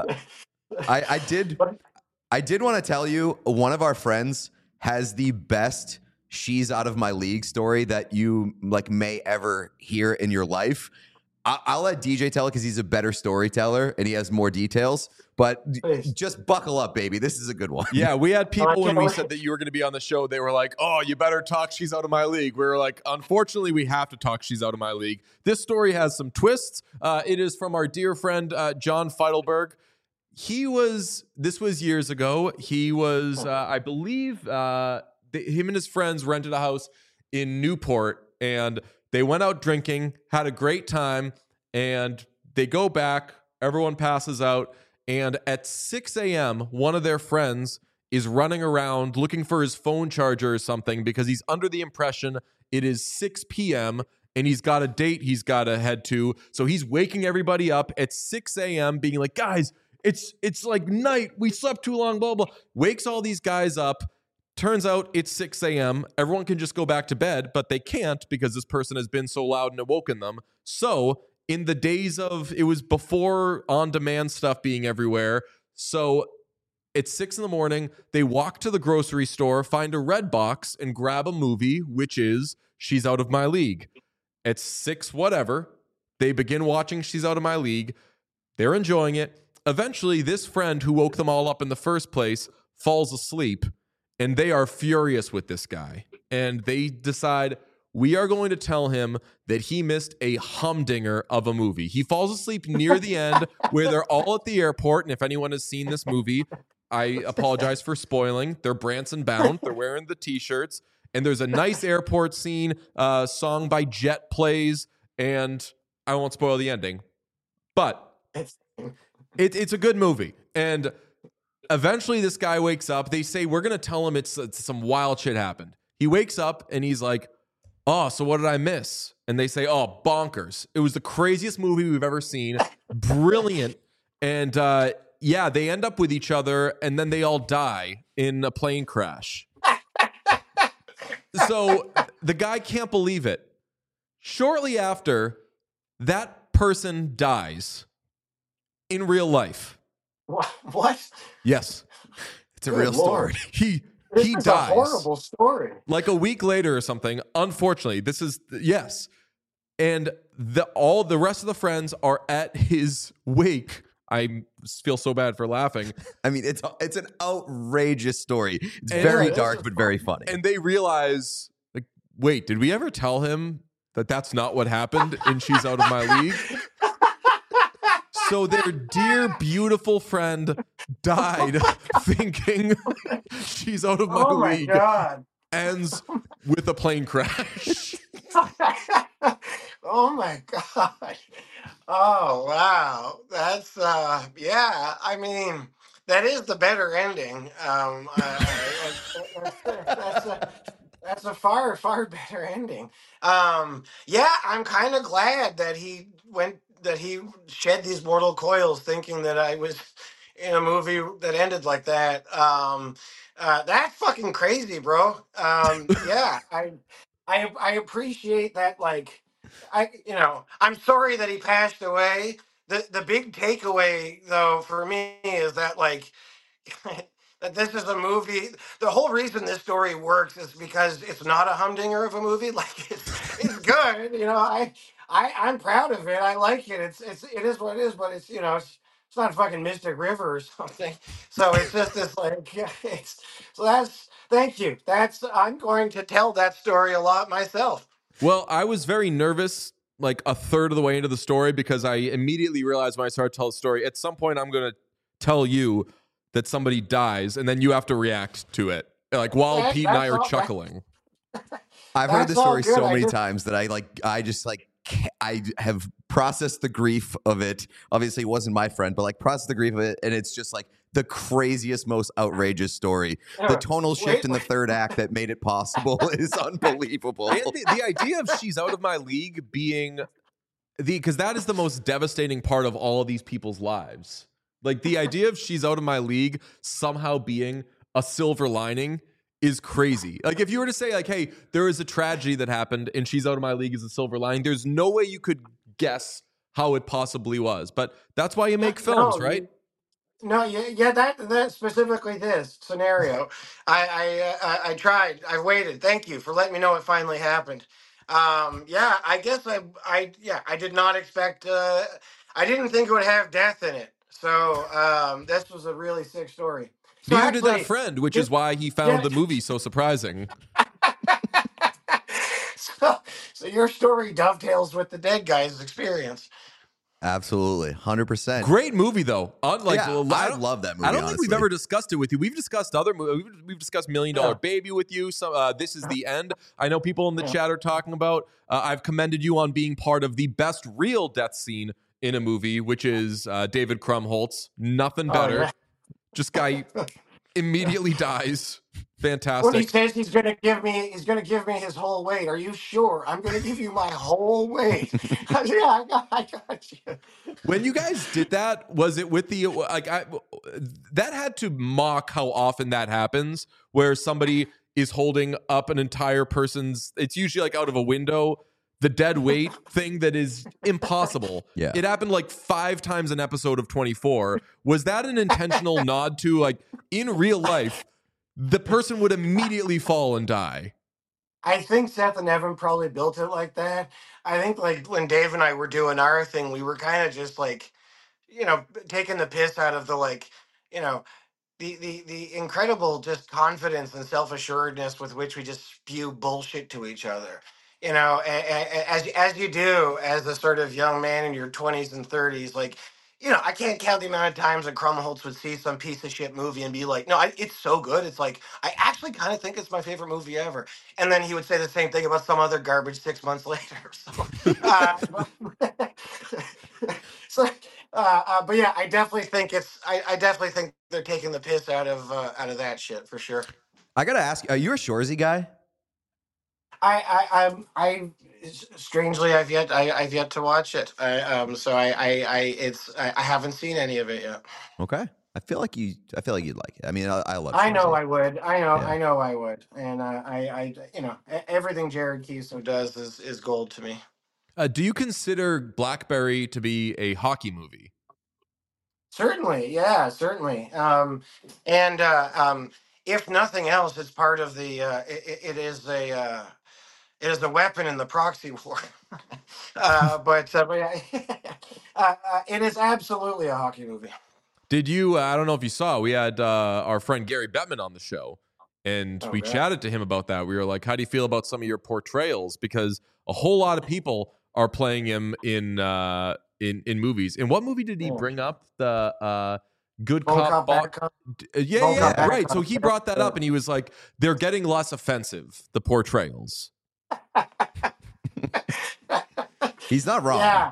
I, I did I did want to tell you, one of our friends has the best "she's out of my league" story that you like may ever hear in your life. I- I'll let D J tell it because he's a better storyteller and he has more details. But d- Please. just buckle up, baby. This is a good one. Yeah, we had people when can't we wait. said that you were going to be on the show. They were like, "Oh, you better talk. She's out of my league." We were like, "Unfortunately, we have to talk. She's out of my league." This story has some twists. Uh, it is from our dear friend uh, John Feidelberg. He was. This was years ago. He was, uh, I believe, uh, th- him and his friends rented a house in Newport, and they went out drinking, had a great time, and they go back. Everyone passes out. And at six a.m., one of their friends is running around looking for his phone charger or something because he's under the impression it is six p.m. and he's got a date he's got to head to. So he's waking everybody up at six a.m. being like, guys, it's it's like night. We slept too long, blah, blah. Wakes all these guys up. Turns out it's six a.m. Everyone can just go back to bed, but they can't because this person has been so loud and awoken them. So in the days of, it was before on-demand stuff being everywhere. So it's six in the morning. They walk to the grocery store, find a red box, and grab a movie, which is She's Out of My League. It's six whatever. They begin watching She's Out of My League. They're enjoying it. Eventually, this friend who woke them all up in the first place falls asleep, and they are furious with this guy. And they decide, we are going to tell him that he missed a humdinger of a movie. He falls asleep near the end where they're all at the airport. And if anyone has seen this movie, I apologize for spoiling. They're Branson bound. They're wearing the T-shirts. And there's a nice airport scene. Uh, song by Jet plays. And I won't spoil the ending. But It's, it, it's a good movie. And eventually this guy wakes up. They say, we're going to tell him it's, it's some wild shit happened. He wakes up and he's like, oh, so what did I miss? And they say, oh, bonkers. It was the craziest movie we've ever seen. Brilliant. And uh, yeah, they end up with each other and then they all die in a plane crash. So the guy can't believe it. Shortly after, that person dies in real life. what? What? Yes. It's a Good real Lord. story. He This he is dies. a horrible story. Like a week later or something. Unfortunately, this is yes. And the all the rest of the friends are at his wake. I feel so bad for laughing. I mean, it's it's an outrageous story. It's And- very Yeah, this dark, is but very funny. And they realize, like, wait, did we ever tell him that that's not what happened and She's Out of My League? So their dear, beautiful friend died thinking She's Out of My Oh my League god. ends with a plane crash. Oh my god. Oh wow. That's uh yeah, I mean that is the better ending. Um I, I, that's, that's, uh, That's a far, far better ending. Um, yeah, I'm kind of glad that he went, that he shed these mortal coils, thinking that I was in a movie that ended like that. Um, uh, that's fucking crazy, bro. Um, yeah, I, I, I appreciate that. Like, I, you know, I'm sorry that he passed away. The the big takeaway, though, for me is that like that this is a movie. The whole reason this story works is because it's not a humdinger of a movie. Like it's it's good. You know, I I I'm proud of it. I like it. It's it's it is what it is. But it's you know it's it's not fucking Mystic River or something. So it's just this like it's so that's thank you. That's I'm going to tell that story a lot myself. Well, I was very nervous like a third of the way into the story because I immediately realized when I started to tell the story, at some point I'm going to tell you that somebody dies and then you have to react to it. Like while That- Pete and I that's are all- chuckling. I've heard That's this all story good. so I many just- times that I like. I just like. ca- I have processed the grief of it. Obviously, it wasn't my friend, but like processed the grief of it, and it's just like the craziest, most outrageous story. The Yeah. tonal shift Wait, in the wait. third act that made it possible is unbelievable. And the, the idea of she's out of my league being the because that is the most devastating part of all of these people's lives. Like the idea of she's out of my league somehow being a silver lining is crazy. Like if you were to say like, hey, there is a tragedy that happened and she's out of my league as a silver lining, there's no way you could guess how it possibly was. But that's why you make films, No, right? you- No, yeah, yeah, that that specifically this scenario. I I, uh, I I tried. I waited. Thank you for letting me know it finally happened. Um, yeah, I guess I I yeah I did not expect. Uh, I didn't think it would have death in it. So um, this was a really sick story. So Neither did that actually, friend, which did- is why he found yeah. the movie so surprising. so so your story dovetails with the dead guy's experience. Absolutely, hundred percent. Great movie though. Unlike Yeah, I I don't- love that movie. I don't think we've honestly. ever discussed it with you. We've discussed other movies. We've, we've discussed Million Dollar Yeah. Baby with you. So uh, this is the end. I know people in the Yeah. chat are talking about. Uh, I've commended you on being part of the best real death scene in a movie, which is uh, David Krumholtz. Nothing Oh, better. yeah. Just guy immediately dies. When he Fantastic. says he's gonna give me, he's gonna give me his whole weight. Are you sure? I'm gonna give you my whole weight. I said, yeah, I got, I got you. When you guys did that, was it with the like? I, that had to mock how often that happens, where somebody is holding up an entire person's. It's usually like out of a window. The dead weight thing that is impossible. Yeah. It happened like five times an episode of twenty-four. Was that an intentional nod to like in real life, the person would immediately fall and die? I think Seth and Evan probably built it like that. I think like when Dave and I were doing our thing, we were kind of just like, you know, taking the piss out of the like, you know, the the the incredible just confidence and self assuredness with which we just spew bullshit to each other. You know, a- a- a- as as you do as a sort of young man in your twenties and thirties, like. You know, I can't count the amount of times that Krumholtz would see some piece of shit movie and be like, "No, I, it's so good. It's like I actually kind of think it's my favorite movie ever." And then he would say the same thing about some other garbage six months later. So, uh, so uh, uh, but yeah, I definitely think it's. I, I definitely think they're taking the piss out of uh, out of that shit for sure. I gotta ask, are you a Shoresy guy? I I I'm, I strangely I've yet I, I've yet to watch it. I, um, so I I, I it's I, I haven't seen any of it yet. Okay, I feel like you. I feel like you'd like it. I mean, I, I love. I know Shoresy. I would. I know. Yeah. I know I would. And uh, I, I, you know, e- everything Jared Keeso does is, is gold to me. Uh, do you consider Blackberry to be a hockey movie? Certainly, yeah, certainly. Um, and uh, um, if nothing else, it's part of the. Uh, it, it is a. Uh, it is a weapon in the proxy war. uh, but uh, but yeah, uh, uh, it is absolutely a hockey movie. Did you? Uh, I don't know if you saw. We had uh, our friend Gary Bettman on the show, and Oh, we yeah. chatted to him about that. We were like, "How do you feel about some of your portrayals?" Because a whole lot of people are playing him in uh, in in movies. And what movie did he Oh. bring up? The uh, Good Bone Cop, Cop, Bo- Bad Cop. D- uh, yeah, Bone yeah, Cop, yeah, Bad right. So Cop. he brought that up, and he was like, "They're getting less offensive, the portrayals." He's not wrong. Yeah.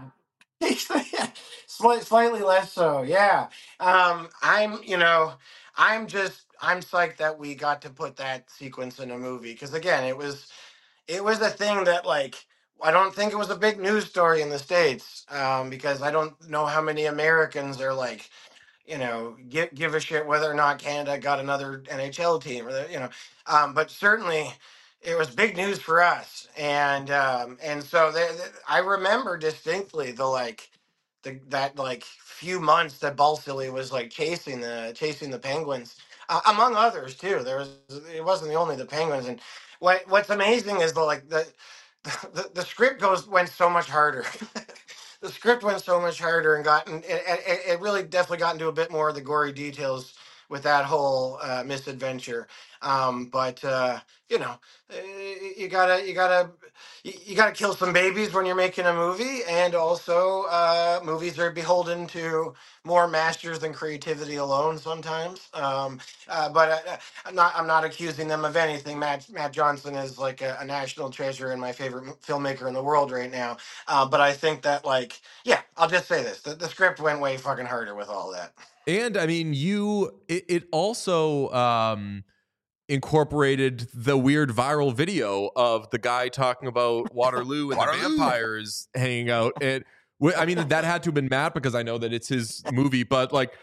Slight, slightly less so. Yeah. Um, I'm, you know, I'm just, I'm psyched that we got to put that sequence in a movie because again, it was it was a thing that like I don't think it was a big news story in the States um, because I don't know how many Americans are like you know, give give a shit whether or not Canada got another N H L team or the, you know, um, but certainly it was big news for us, and um, and so they, they- I remember distinctly the like the that like few months that Balsillie was like chasing the chasing the Penguins, uh, among others too. There was it wasn't the only the Penguins, and what what's amazing is the like the the, the script goes went so much harder. The script went so much harder and gotten it, it, it really definitely got into a bit more of the gory details with that whole uh, misadventure. Um, but uh, you know, eh, you gotta you gotta you, you gotta kill some babies when you're making a movie, and also uh, movies are beholden to more masters than creativity alone sometimes. Um, uh, but uh, I'm not I'm not accusing them of anything. Matt Matt Johnson is like a, a national treasure and my favorite m- filmmaker in the world right now. Uh, but I think that like yeah, I'll just say this: the, the script went way fucking harder with all that. And I mean, you it, it also um incorporated the weird viral video of the guy talking about Waterloo and the vampires hanging out. And wh- I mean, that had to have been Matt because I know that it's his movie, but like,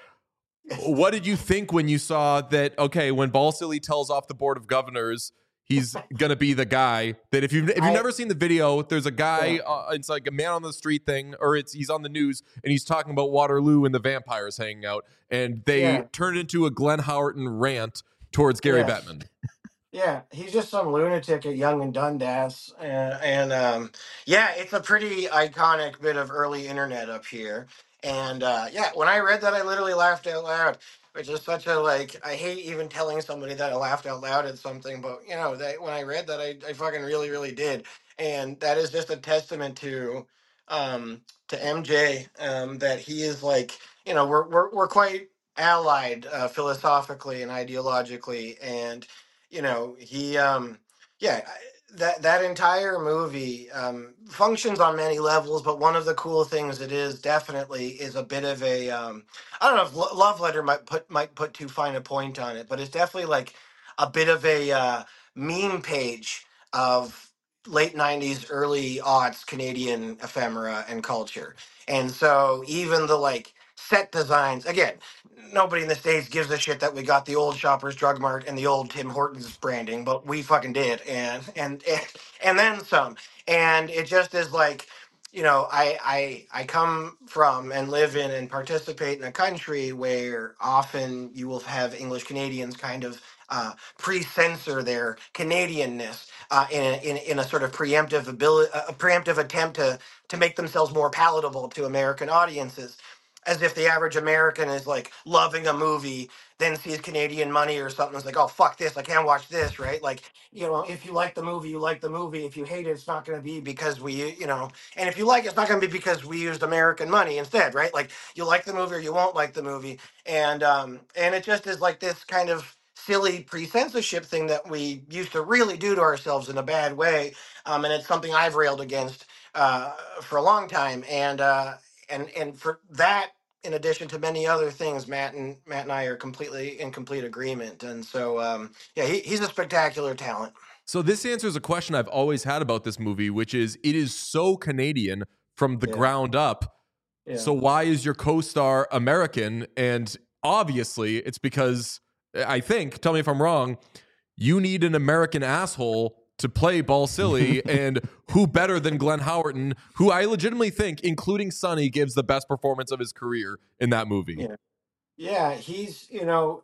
what did you think when you saw that? Okay, when Balsillie tells off the board of governors, he's gonna be the guy that if you if you've I- never seen the video, there's a guy. Yeah. Uh, it's like a man on the street thing, or it's he's on the news and he's talking about Waterloo and the vampires hanging out, and they Yeah. turn into a Glenn Howerton rant towards Gary Yes. Bettman. Yeah, he's just some lunatic at Young and Dundas, and, and um, yeah, it's a pretty iconic bit of early internet up here. And uh, yeah, when I read that, I literally laughed out loud, which is such a like. I hate even telling somebody that I laughed out loud at something, but you know, that when I read that, I, I fucking really, really did, and that is just a testament to um, to M J um, that he is like, you know, we're we're we're quite allied uh, philosophically and ideologically, and you know he um yeah I- that that entire movie um functions on many levels, but one of the cool things it is definitely is a bit of a um I don't know if Lo- love letter might put might put too fine a point on it, but it's definitely like a bit of a uh meme page of late nineties early aughts Canadian ephemera and culture. And so even the like set designs again, nobody in the States gives a shit that we got the old Shoppers Drug Mart and the old Tim Hortons branding, but we fucking did, and and and, and then some. And it just is like, you know, I I I come from and live in and participate in a country where often you will have English Canadians kind of uh, pre-censor their Canadianness uh, in, a, in in a sort of preemptive ability, a preemptive attempt to to make themselves more palatable to American audiences, as if the average American is like loving a movie, then sees Canadian money or something. It's like, oh fuck this, I can't watch this, right? Like, you know, if you like the movie, you like the movie. If you hate it, it's not going to be because we, you know, and if you like it, it's not going to be because we used American money instead, right? Like, you like the movie or you won't like the movie, and um, and it just is like this kind of silly pre-censorship thing that we used to really do to ourselves in a bad way, um, and it's something I've railed against uh, for a long time, and. Uh, and and for that, in addition to many other things, Matt and Matt and I are completely in complete agreement. And so um yeah, he, he's a spectacular talent. So this answers a question I've always had about this movie, which is it is so Canadian from the Yeah. ground up. Yeah. So why is your co-star American? And obviously it's because I think, tell me if I'm wrong, you need an American asshole to play Balsillie, and who better than Glenn Howerton, who I legitimately think, including Sonny, gives the best performance of his career in that movie. Yeah. Yeah, he's, you know,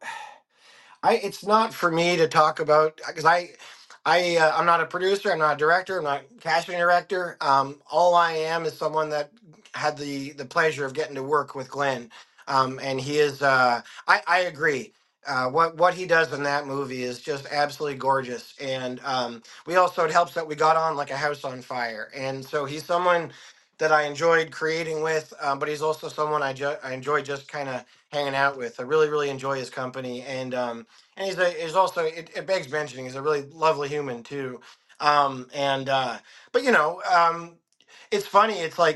I it's not for me to talk about because I I uh, I'm not a producer, I'm not a director, I'm not a casting director. Um, all I am is someone that had the the pleasure of getting to work with Glenn, um, and he is. Uh, I I agree. Uh, what what he does in that movie is just absolutely gorgeous, and um, we also it helps that we got on like a house on fire, and so he's someone that I enjoyed creating with, um, but he's also someone I ju- I enjoy just kind of hanging out with. I really really enjoy his company, and um, and he's a he's also it, it begs mentioning he's a really lovely human too. Um, and uh, but you know, um, it's funny. It's like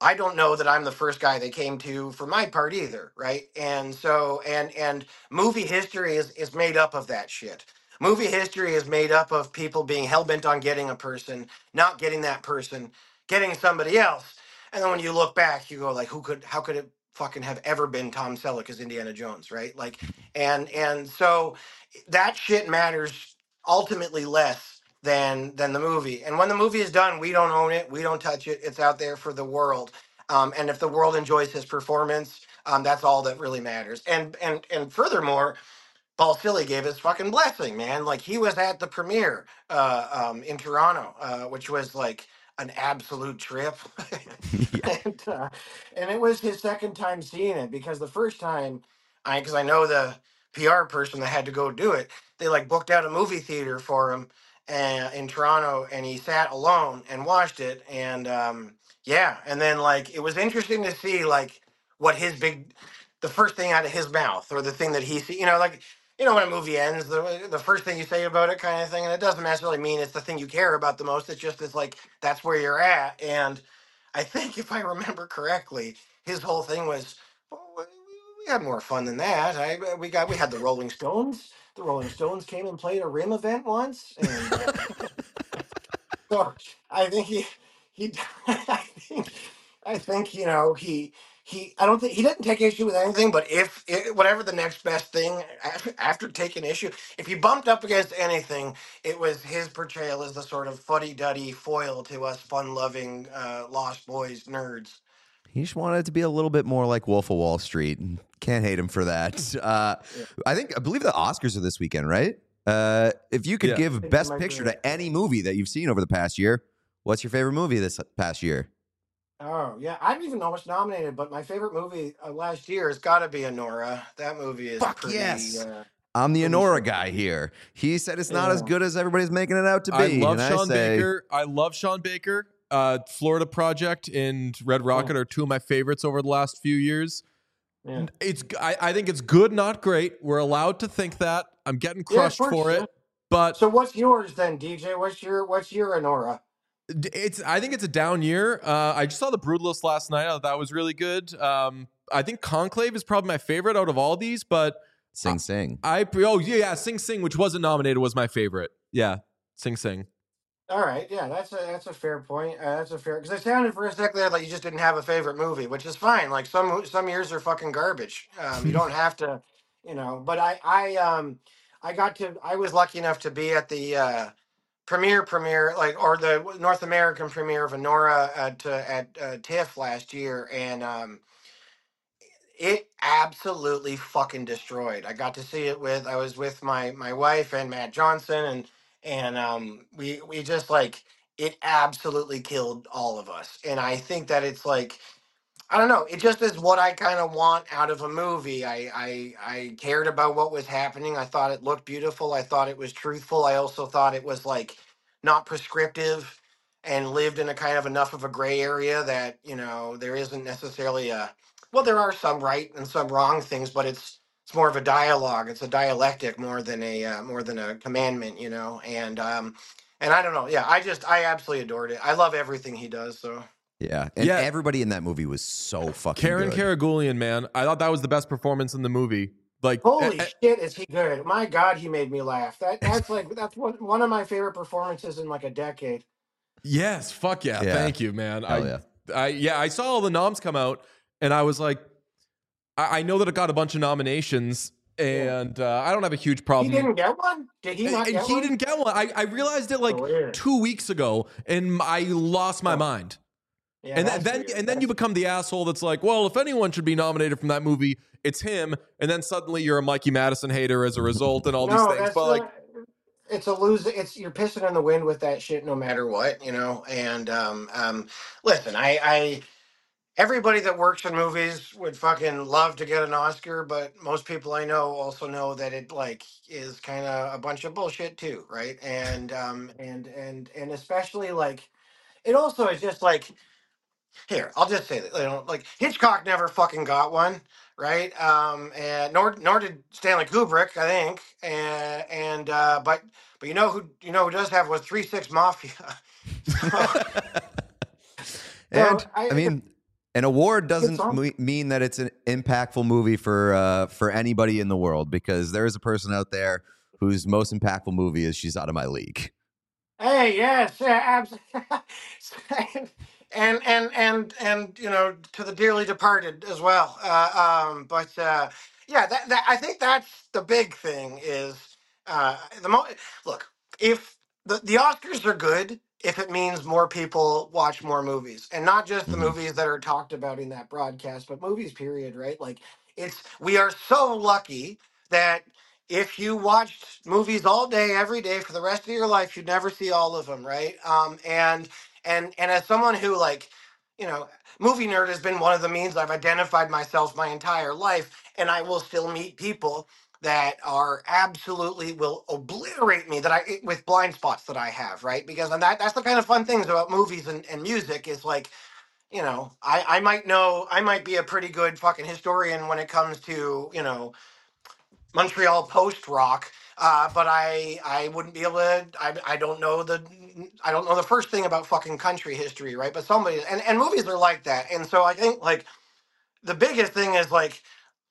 I don't know that I'm the first guy they came to for my part either, right? And so and and movie history is is made up of that shit. Movie history is made up of people being hell bent on getting a person, not getting that person, getting somebody else. And then when you look back, you go like, who could how could it fucking have ever been Tom Selleck as Indiana Jones, right? Like and and so that shit matters ultimately less than than the movie. And when the movie is done, we don't own it, we don't touch it. It's out there for the world. Um, and if the world enjoys his performance, um, that's all that really matters. And and and furthermore, Paul Silly gave his fucking blessing, man. Like he was at the premiere uh, um, in Toronto, uh, which was like an absolute trip. Yeah. and uh, and it was his second time seeing it because the first time, I because I know the P R person that had to go do it, they like booked out a movie theater for him uh, in Toronto, and he sat alone and watched it, and um, yeah, and then like it was interesting to see like what his big, the first thing out of his mouth or the thing that he see, you know, like you know when a movie ends, the the first thing you say about it, kind of thing, and it doesn't necessarily mean it's the thing you care about the most. It's just it's like that's where you're at, and I think if I remember correctly, his whole thing was, well, we we had more fun than that. I we got we had the Rolling Stones. The Rolling Stones came and played a Rim event once, and uh, so I think he he I think I think you know he he I don't think he didn't take issue with anything, but if it, whatever the next best thing after, after taking issue, if he bumped up against anything, it was his portrayal as the sort of fuddy-duddy foil to us fun-loving uh, Lost Boys nerds. He just wanted it to be a little bit more like Wolf of Wall Street. Can't hate him for that. Uh, Yeah. I think I believe the Oscars are this weekend, right? Uh, if you could Yeah. give think Best it might be Picture right. to any movie that you've seen over the past year, what's your favorite movie this past year? Oh yeah, I don't even know what's nominated, but my favorite movie uh, last year has got to be Anora. That movie is Fuck pretty. yes. Uh, I'm the pretty Honora shit. guy here. He said it's not as Yeah. good as everybody's making it out to I be. love and Sean I say, Baker. I love Sean Baker. Uh, Florida Project and Red Rocket are two of my favorites over the last few years. Yeah. It's I, I think it's good, not great. We're allowed to think that. I'm getting Yeah, of crushed course, for yeah. it, but So what's yours then, D J? What's your what's your Anora? it's I think it's a down year. Uh, I just saw the Brutalist last night. I thought that was really good. Um, I think Conclave is probably my favorite out of all these, but Sing Sing. I oh yeah, yeah Sing Sing, which wasn't nominated, was my favorite. Yeah, Sing Sing. All right, yeah, that's a that's a fair point. Uh, that's a fair because it sounded for a second there like you just didn't have a favorite movie, which is fine. Like some some years are fucking garbage. Um, you don't have to, you know. But I I um I got to I was lucky enough to be at the uh, premiere premiere like or the North American premiere of Anora at uh, at uh, TIFF last year, and um it absolutely fucking destroyed. I got to see it with I was with my my wife and Matt Johnson, and and um we we just like it absolutely killed all of us. And I think that it's like I don't know. It just is what I kind of want out of a movie. I, I I cared about what was happening. I thought it looked beautiful. I thought it was truthful. I also thought it was like not prescriptive and lived in a kind of enough of a gray area that, you know, there isn't necessarily a well, there are some right and some wrong things, but it's it's more of a dialogue. It's a dialectic more than a uh, more than a commandment, you know. And um and I don't know. Yeah, I just I absolutely adored it. I love everything he does, so Yeah. And Yeah. everybody in that movie was so fucking Karen good. Karagulian, man, I thought that was the best performance in the movie. Like, holy eh, eh, shit, is he good? My God, he made me laugh. That that's like that's one one of my favorite performances in like a decade. yes, fuck yeah, Yeah. thank you, man. Hell I, yeah. I, yeah, I saw all the noms come out, and I was like, I, I know that it got a bunch of nominations, and uh, I don't have a huge He problem. didn't get one. Did he not and get he one? didn't get one. I, I realized it like Weird. two weeks ago, and I lost my Oh. mind. Yeah, and then, that's then weird. and then you That's- become the asshole that's like, well, if anyone should be nominated from that movie, it's him. And then suddenly you're a Mikey Madison hater as a result, and all no, these things. that's But like, not- it's a lose. It's you're pissing in the wind with that shit, no matter what, you know. And um, um, listen, I, I everybody that works in movies would fucking love to get an Oscar, but most people I know also know that it like is kind of a bunch of bullshit too, right? And um, and and and especially like it also is just like here, I'll just say that you know, like Hitchcock never fucking got one, right? Um, and nor nor did Stanley Kubrick, I think. And and uh, but but you know who you know who does have was Three Six Mafia. so, And I- I mean, An award Good doesn't song. me- mean that it's an impactful movie for uh, for anybody in the world, because there is a person out there whose most impactful movie is She's Out of My League. Hey, yes, yeah, absolutely. and and and and you know, to the dearly departed as well. Uh, um, but uh, yeah, that, that I think that's the big thing is uh, the mo- look, if the the Oscars are good if it means more people watch more movies, and not just the Mhm. movies that are talked about in that broadcast, but movies period, right? Like it's we are so lucky that if you watched movies all day, every day for the rest of your life, you'd never see all of them, right? Um, and and and as someone who like, you know, movie nerd has been one of the means I've identified myself my entire life, and I will still meet people that are absolutely will obliterate me that I with blind spots that I have, right? Because and that that's the kind of fun things about movies and, and music is like, you know, I, I might know I might be a pretty good fucking historian when it comes to, you know, Montreal post rock, uh, but I I wouldn't be able to. I, I don't know the I don't know the first thing about fucking country history, right? But somebody and and movies are like that, and so I think like the biggest thing is like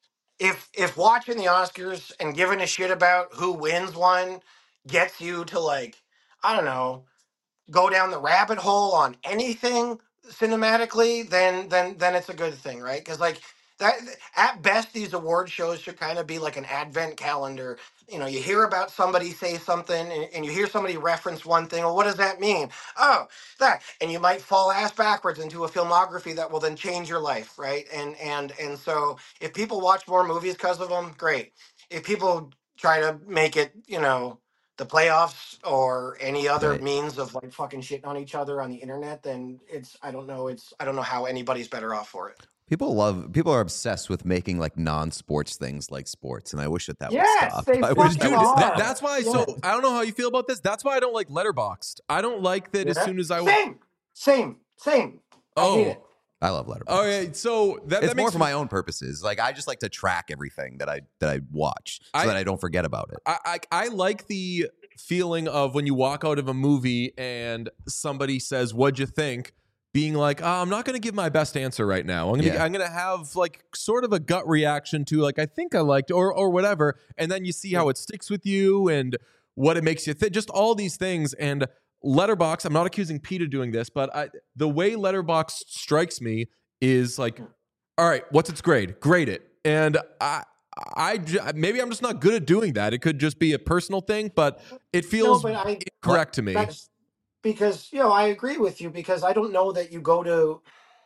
if if watching the Oscars and giving a shit about who wins one gets you to like I don't know go down the rabbit hole on anything cinematically, then then then it's a good thing, right? Because like that at best, these award shows should kind of be like an advent calendar. You know, you hear about somebody say something and, and you hear somebody reference one thing. Well, what does that mean? Oh, that, and you might fall ass backwards into a filmography that will then change your life, right? And and and so if people watch more movies because of them, great. If people try to make it, you know, the playoffs or any other Right. means of like fucking shitting on each other on the internet, then it's I don't know it's I don't know how anybody's better off for it. People love people are obsessed with making like non-sports things like sports, and I wish that that would Yes, stop. they I wish fucking that Dude, would that, stop. are. that's why. Yeah. So I don't know how you feel about this. That's why I don't like Letterboxd. I don't like that. As Yeah. soon as I Same, same, same. I hate it. oh, I love Letterboxd. all right. So that It's that more makes for my own purposes. Like I just like to track everything that I that I watch so I- that I don't forget about it. I, I I like the feeling of when you walk out of a movie and somebody says, "What'd you think?" Being like, oh, I'm not going to give my best answer right now. I'm going to Yeah. I'm going to have like sort of a gut reaction to like I think I liked or or whatever, and then you see how it sticks with you and what it makes you think. Just all these things and Letterbox. I'm not accusing Pete of doing this, but I, the way Letterbox strikes me is like, all right, what's its grade? Grade it, and I. I maybe I'm just not good at doing that. It could just be a personal thing, but it No, feels but I incorrect to me. that's because you know I agree with you because I don't know that you go to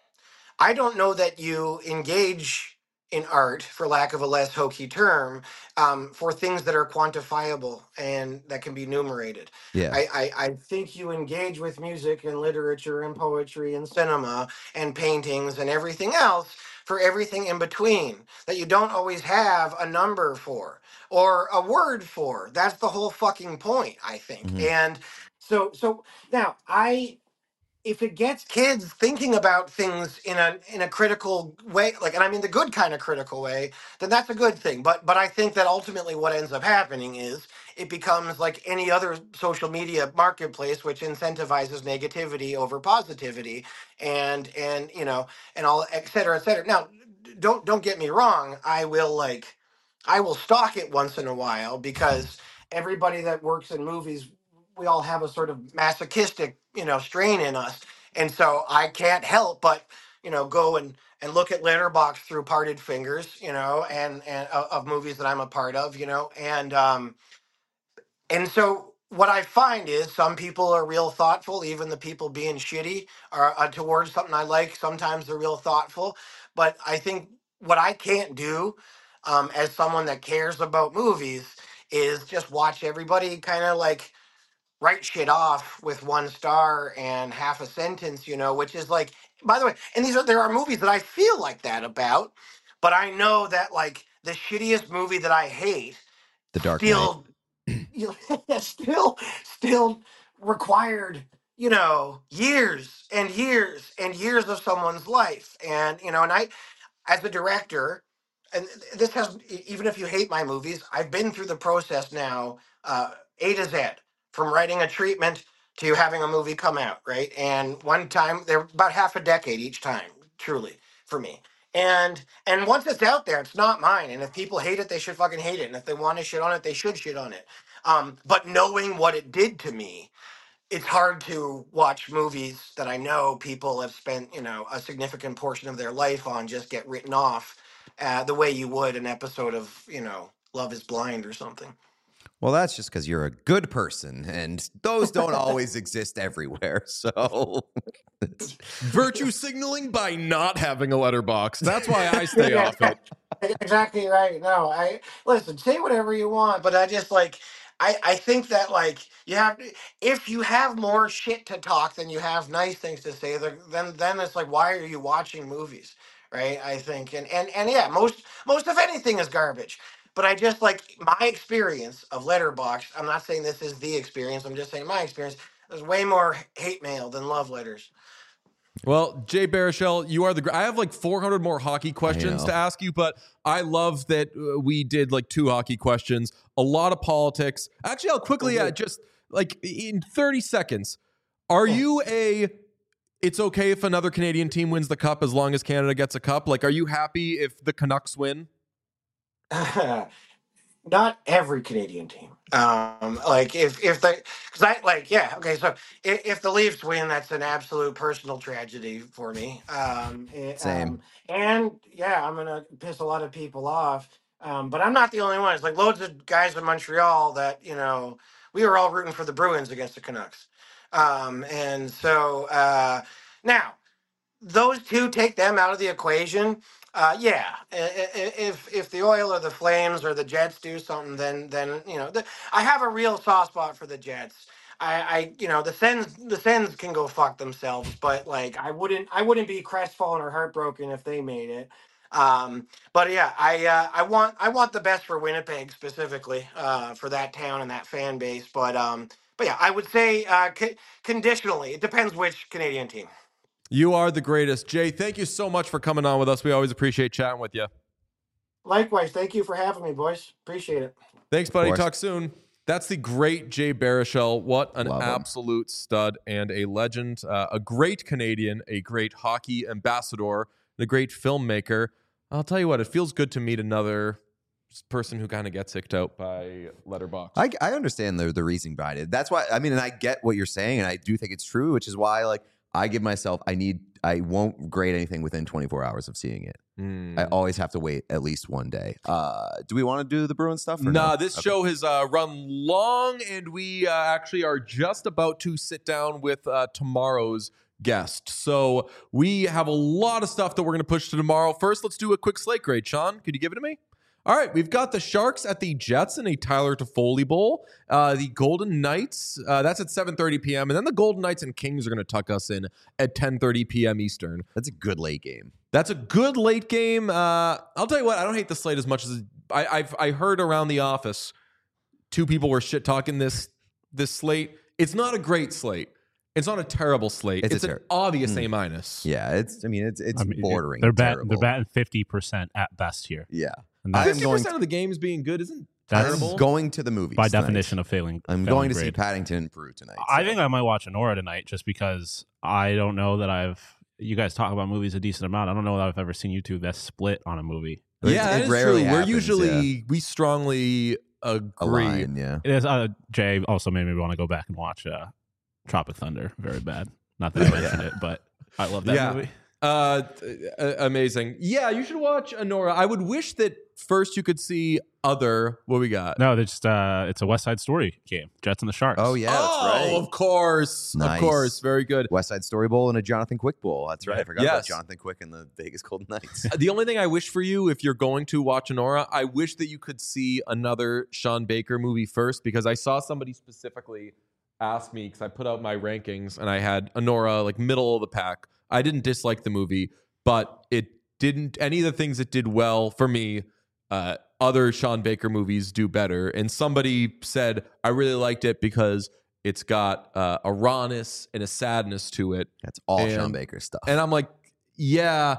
I don't know that you engage in art, for lack of a less hokey term, um, for things that are quantifiable and that can be numerated. Yeah. I, I, I think you engage with music and literature and poetry and cinema and paintings and everything else for everything in between that you don't always have a number for or a word for. That's the whole fucking point, I think. Mhm. And so so now I if it gets kids thinking about things in a in a critical way, like, and I mean the good kind of critical way, then that's a good thing. But but I think that ultimately what ends up happening is it becomes like any other social media marketplace, which incentivizes negativity over positivity, and and you know and all et cetera, et cetera. Now, don't don't get me wrong. I will like, I will stalk it once in a while because everybody that works in movies we all have a sort of masochistic, you know, strain in us. And so I can't help but, you know, go and, and look at Letterbox through parted fingers, you know, and, and of, of movies that I'm a part of, you know, and, um, and so what I find is some people are real thoughtful, even the people being shitty are uh, towards something I like. Sometimes they're real thoughtful, but I think what I can't do um, as someone that cares about movies is just watch everybody kind of like, write shit off with one star and half a sentence, you know, which is like, by the way, and these are there are movies that I feel like that about, but I know that like the shittiest movie that I hate The Dark Knight. still, you know, still, still required, you know, years and years and years of someone's life, and you know, and I, as a director, and this has e- even if you hate my movies, I've been through the process now, uh, A to Z, from writing a treatment to having a movie come out, right? And one time they're about half a decade each time, truly. for me. And and once it's out there, it's not mine. And if people hate it, they should fucking hate it. And if they want to shit on it, they should shit on it. Um, but knowing what it did to me, it's hard to watch movies that I know people have spent, you know, a significant portion of their life on just get written off uh, the way you would an episode of, you know, Love is Blind or something. Well, that's just because you're a good person, and those don't always exist everywhere. So, Virtue signaling by not having a letterbox. That's why I stay Yeah, off it. exactly right. No, I listen, say whatever you want, but I just like I I think that like you have if you have more shit to talk than you have nice things to say, then then then it's like why are you watching movies, right? I think and and and yeah, most most of anything is garbage. But I just like my experience of Letterboxd. I'm not saying this is the experience. I'm just saying my experience. There's way more hate mail than love letters. Well, Jay Baruchel, you are the. Gr- I have like four hundred more hockey questions know. to ask you, but I love that uh, we did like two hockey questions, a lot of politics. Actually, I'll quickly uh, just like in thirty seconds. Are you a? It's okay if another Canadian team wins the cup as long as Canada gets a cup. Like, are you happy if the Canucks win? Not every Canadian team. Um, like if if they, because I like yeah okay. So if, if the Leafs win, that's an absolute personal tragedy for me. Um, it- Same. um, and yeah, I'm gonna piss a lot of people off. Um, but I'm not the only one. It's like loads of guys in Montreal that you know we were all rooting for the Bruins against the Canucks. Um, and so uh, now those two, take them out of the equation. Uh, yeah, I- I- if if the Oil or the Flames or the Jets do something, then then you know the, I have a real soft spot for the Jets. I, I you know the Sens the Sens can go fuck themselves, but like I wouldn't I wouldn't be crestfallen or heartbroken if they made it. Um, but yeah, I uh, I want I want the best for Winnipeg specifically uh, for that town and that fan base. But um, but yeah, I would say uh, co- conditionally. It depends which Canadian team. You are the greatest, Jay. Thank you so much for coming on with us. We always appreciate chatting with you. Likewise, thank you for having me, boys. Appreciate it. Thanks, buddy. course. Talk soon. That's the great Jay Baruchel. What an Love him. absolute stud and a legend. Uh, a great Canadian, a great hockey ambassador, and a great filmmaker. I'll tell you what, it feels good to meet another person who kind of gets kicked out by Letterboxd. I, I understand the the reasoning behind it. That's why I mean, and I get what you're saying, and I do think it's true, which is why like I give myself I need I won't grade anything within twenty-four hours of seeing it. Mm. I always have to wait at least one day. Uh, do we want to do the Bruins stuff? Or Nah, no? this Okay. show has uh, run long, and we uh, actually are just about to sit down with uh, tomorrow's guest. So we have a lot of stuff that we're going to push to tomorrow. First, let's do a quick slate grade. Sean, could you give it to me? All right, we've got the Sharks at the Jets in a Tyler Toffoli Bowl. Uh, the Golden Knights, uh, that's at seven thirty p.m. And then the Golden Knights and Kings are going to tuck us in at ten thirty p.m. Eastern. That's a good late game. That's a good late game. Uh, I'll tell you what, I don't hate the slate as much as I, I've I heard around the office. Two people were shit talking this this slate. It's not a great slate. It's not a terrible slate. It's a It's, an ter- obvious Mm. A minus. Yeah, it's. I mean, it's it's I mean, bordering. They're batting. terrible. They're batting fifty percent at best here. Yeah, And I that's am Fifty going. percent of the games being good isn't That's I'm terrible. going to the movies by tonight. definition of failing. I'm failing going to see grade. Paddington and Peru tonight. I so. think I might watch Anora tonight just because I don't know that I've. You guys talk about movies a decent amount. I don't know that I've ever seen you two that split on a movie. It- Yeah, it that is rarely true. We're happens, usually yeah. we strongly agree. Align, yeah. It is. Uh, Jay also made me want to go back and watch uh, Tropic Thunder. Very bad. Not that I mentioned it, but I love that Yeah. movie. Uh, uh, amazing. Yeah, you should watch Anora. I would wish that first you could see other. What we got? No, it's just uh, it's a West Side Story game. Jets and the Sharks. Oh yeah, oh, that's right. of course, Nice. of course. Very good. West Side Story Bowl and a Jonathan Quick Bowl. That's right. I forgot Yes. about Jonathan Quick and the Vegas Golden Knights. The only thing I wish for you, if you're going to watch Anora, I wish that you could see another Sean Baker movie first, because I saw somebody specifically ask me, because I put out my rankings and I had Anora like middle of the pack. I didn't dislike the movie, but it didn't. Any of the things it did well for me, uh, other Sean Baker movies do better. And somebody said I really liked it because it's got uh, a rawness and a sadness to it. That's all And- Sean Baker stuff. And I'm like, yeah,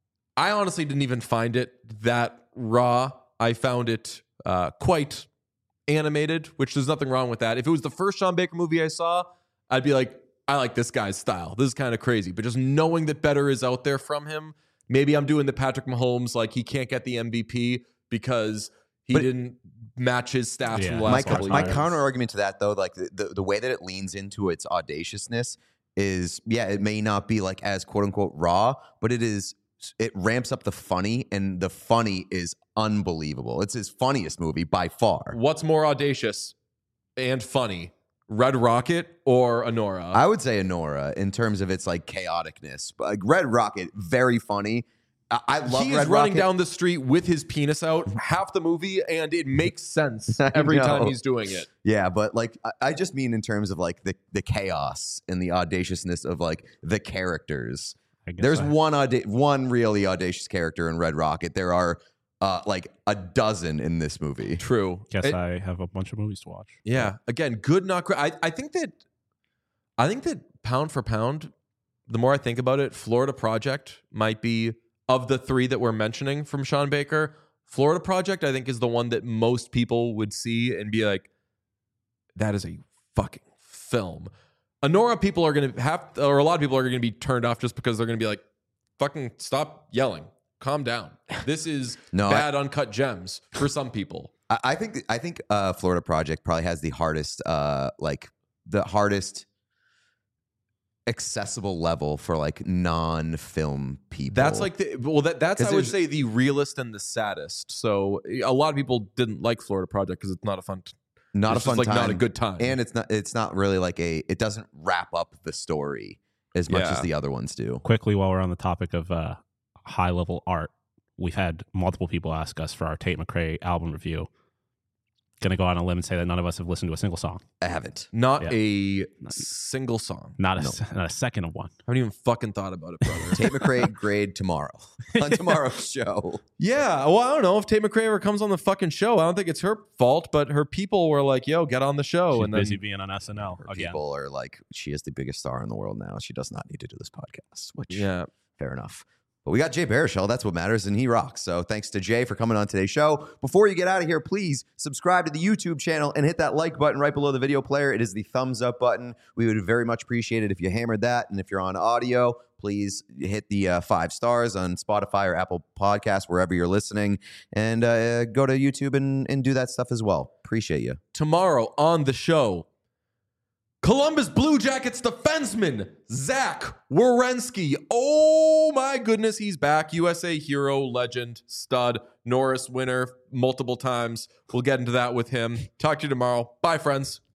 I honestly didn't even find it that raw. I found it uh, quite animated, which there's nothing wrong with that. If it was the first Sean Baker movie I saw, I'd be like, I like this guy's style. This is kind of crazy. But just knowing that better is out there from him maybe I'm doing the Patrick Mahomes, like he can't get the M V P because he But- didn't match his stats Yeah. from the My, last couple my of years. counter argument to that, though, like the, the, the way that it leans into its audaciousness is, yeah, it may not be like as quote unquote raw, but it is, it ramps up the funny, and the funny is unbelievable. It's his funniest movie by far. What's more audacious and funny, Red Rocket or Honora? I would say Honora in terms of its like chaoticness, but like Red Rocket, very funny. I, I love He's Red running Rocket. down the street with his penis out half the movie, and it makes sense I every know. time he's doing it. Yeah, but like I, I just mean in terms of like the the chaos and the audaciousness of like the characters. I guess There's I- one auda- one really audacious character in Red Rocket. There are uh, like a dozen in this movie. True. Guess It- I have a bunch of movies to watch. Yeah. Again, good, not great. I, I think that I think that pound for pound, the more I think about it, Florida Project might be, of the three that we're mentioning from Sean Baker, Florida Project, I think, is the one that most people would see and be like, that is a fucking film. Honora, people are going to have, or a lot of people are going to be turned off just because they're going to be like, fucking stop yelling. Calm down. This is No, I- bad uncut gems for some people. I, I think I think uh, Florida Project probably has the hardest, uh, like the hardest accessible level for like non-film people. That's like the well that that's 'Cause I would there's- say the realest and the saddest. So a lot of people didn't like Florida Project because it's not a fun, t- not it's a fun just like time, not a good time. and it's not it's not really like a it doesn't wrap up the story as much Yeah. as the other ones do. Quickly, while we're on the topic of uh, high level art, we've had multiple people ask us for our Tate McRae album review. Gonna go on a limb and say that none of us have listened to a single song, I haven't. not Yeah. a single song. not a, No. s- not a second of one. I haven't even fucking thought about it, brother. Tate McRae grade tomorrow on tomorrow's show. Yeah, well, I don't know if Tate McRae ever comes on the fucking show. I don't think it's her fault, but her people were like, "Yo, get on the show," She's and then busy being on S N L Her again. people are like, she is the biggest star in the world now. She does not need to do this podcast, which yeah, fair enough. But we got Jay Baruchel. That's what matters, and he rocks. So thanks to Jay for coming on today's show. Before you get out of here, please subscribe to the YouTube channel and hit that like button right below the video player. It is the thumbs up button. We would very much appreciate it if you hammered that. And if you're on audio, please hit the uh, five stars on Spotify or Apple Podcasts, wherever you're listening. And uh, go to YouTube and, and do that stuff as well. Appreciate you. tomorrow on the show, Columbus Blue Jackets defenseman Zach Werenski. Oh my goodness, he's back. U S A hero, legend, stud, Norris winner multiple times. We'll get into that with him. Talk to you tomorrow. Bye, friends.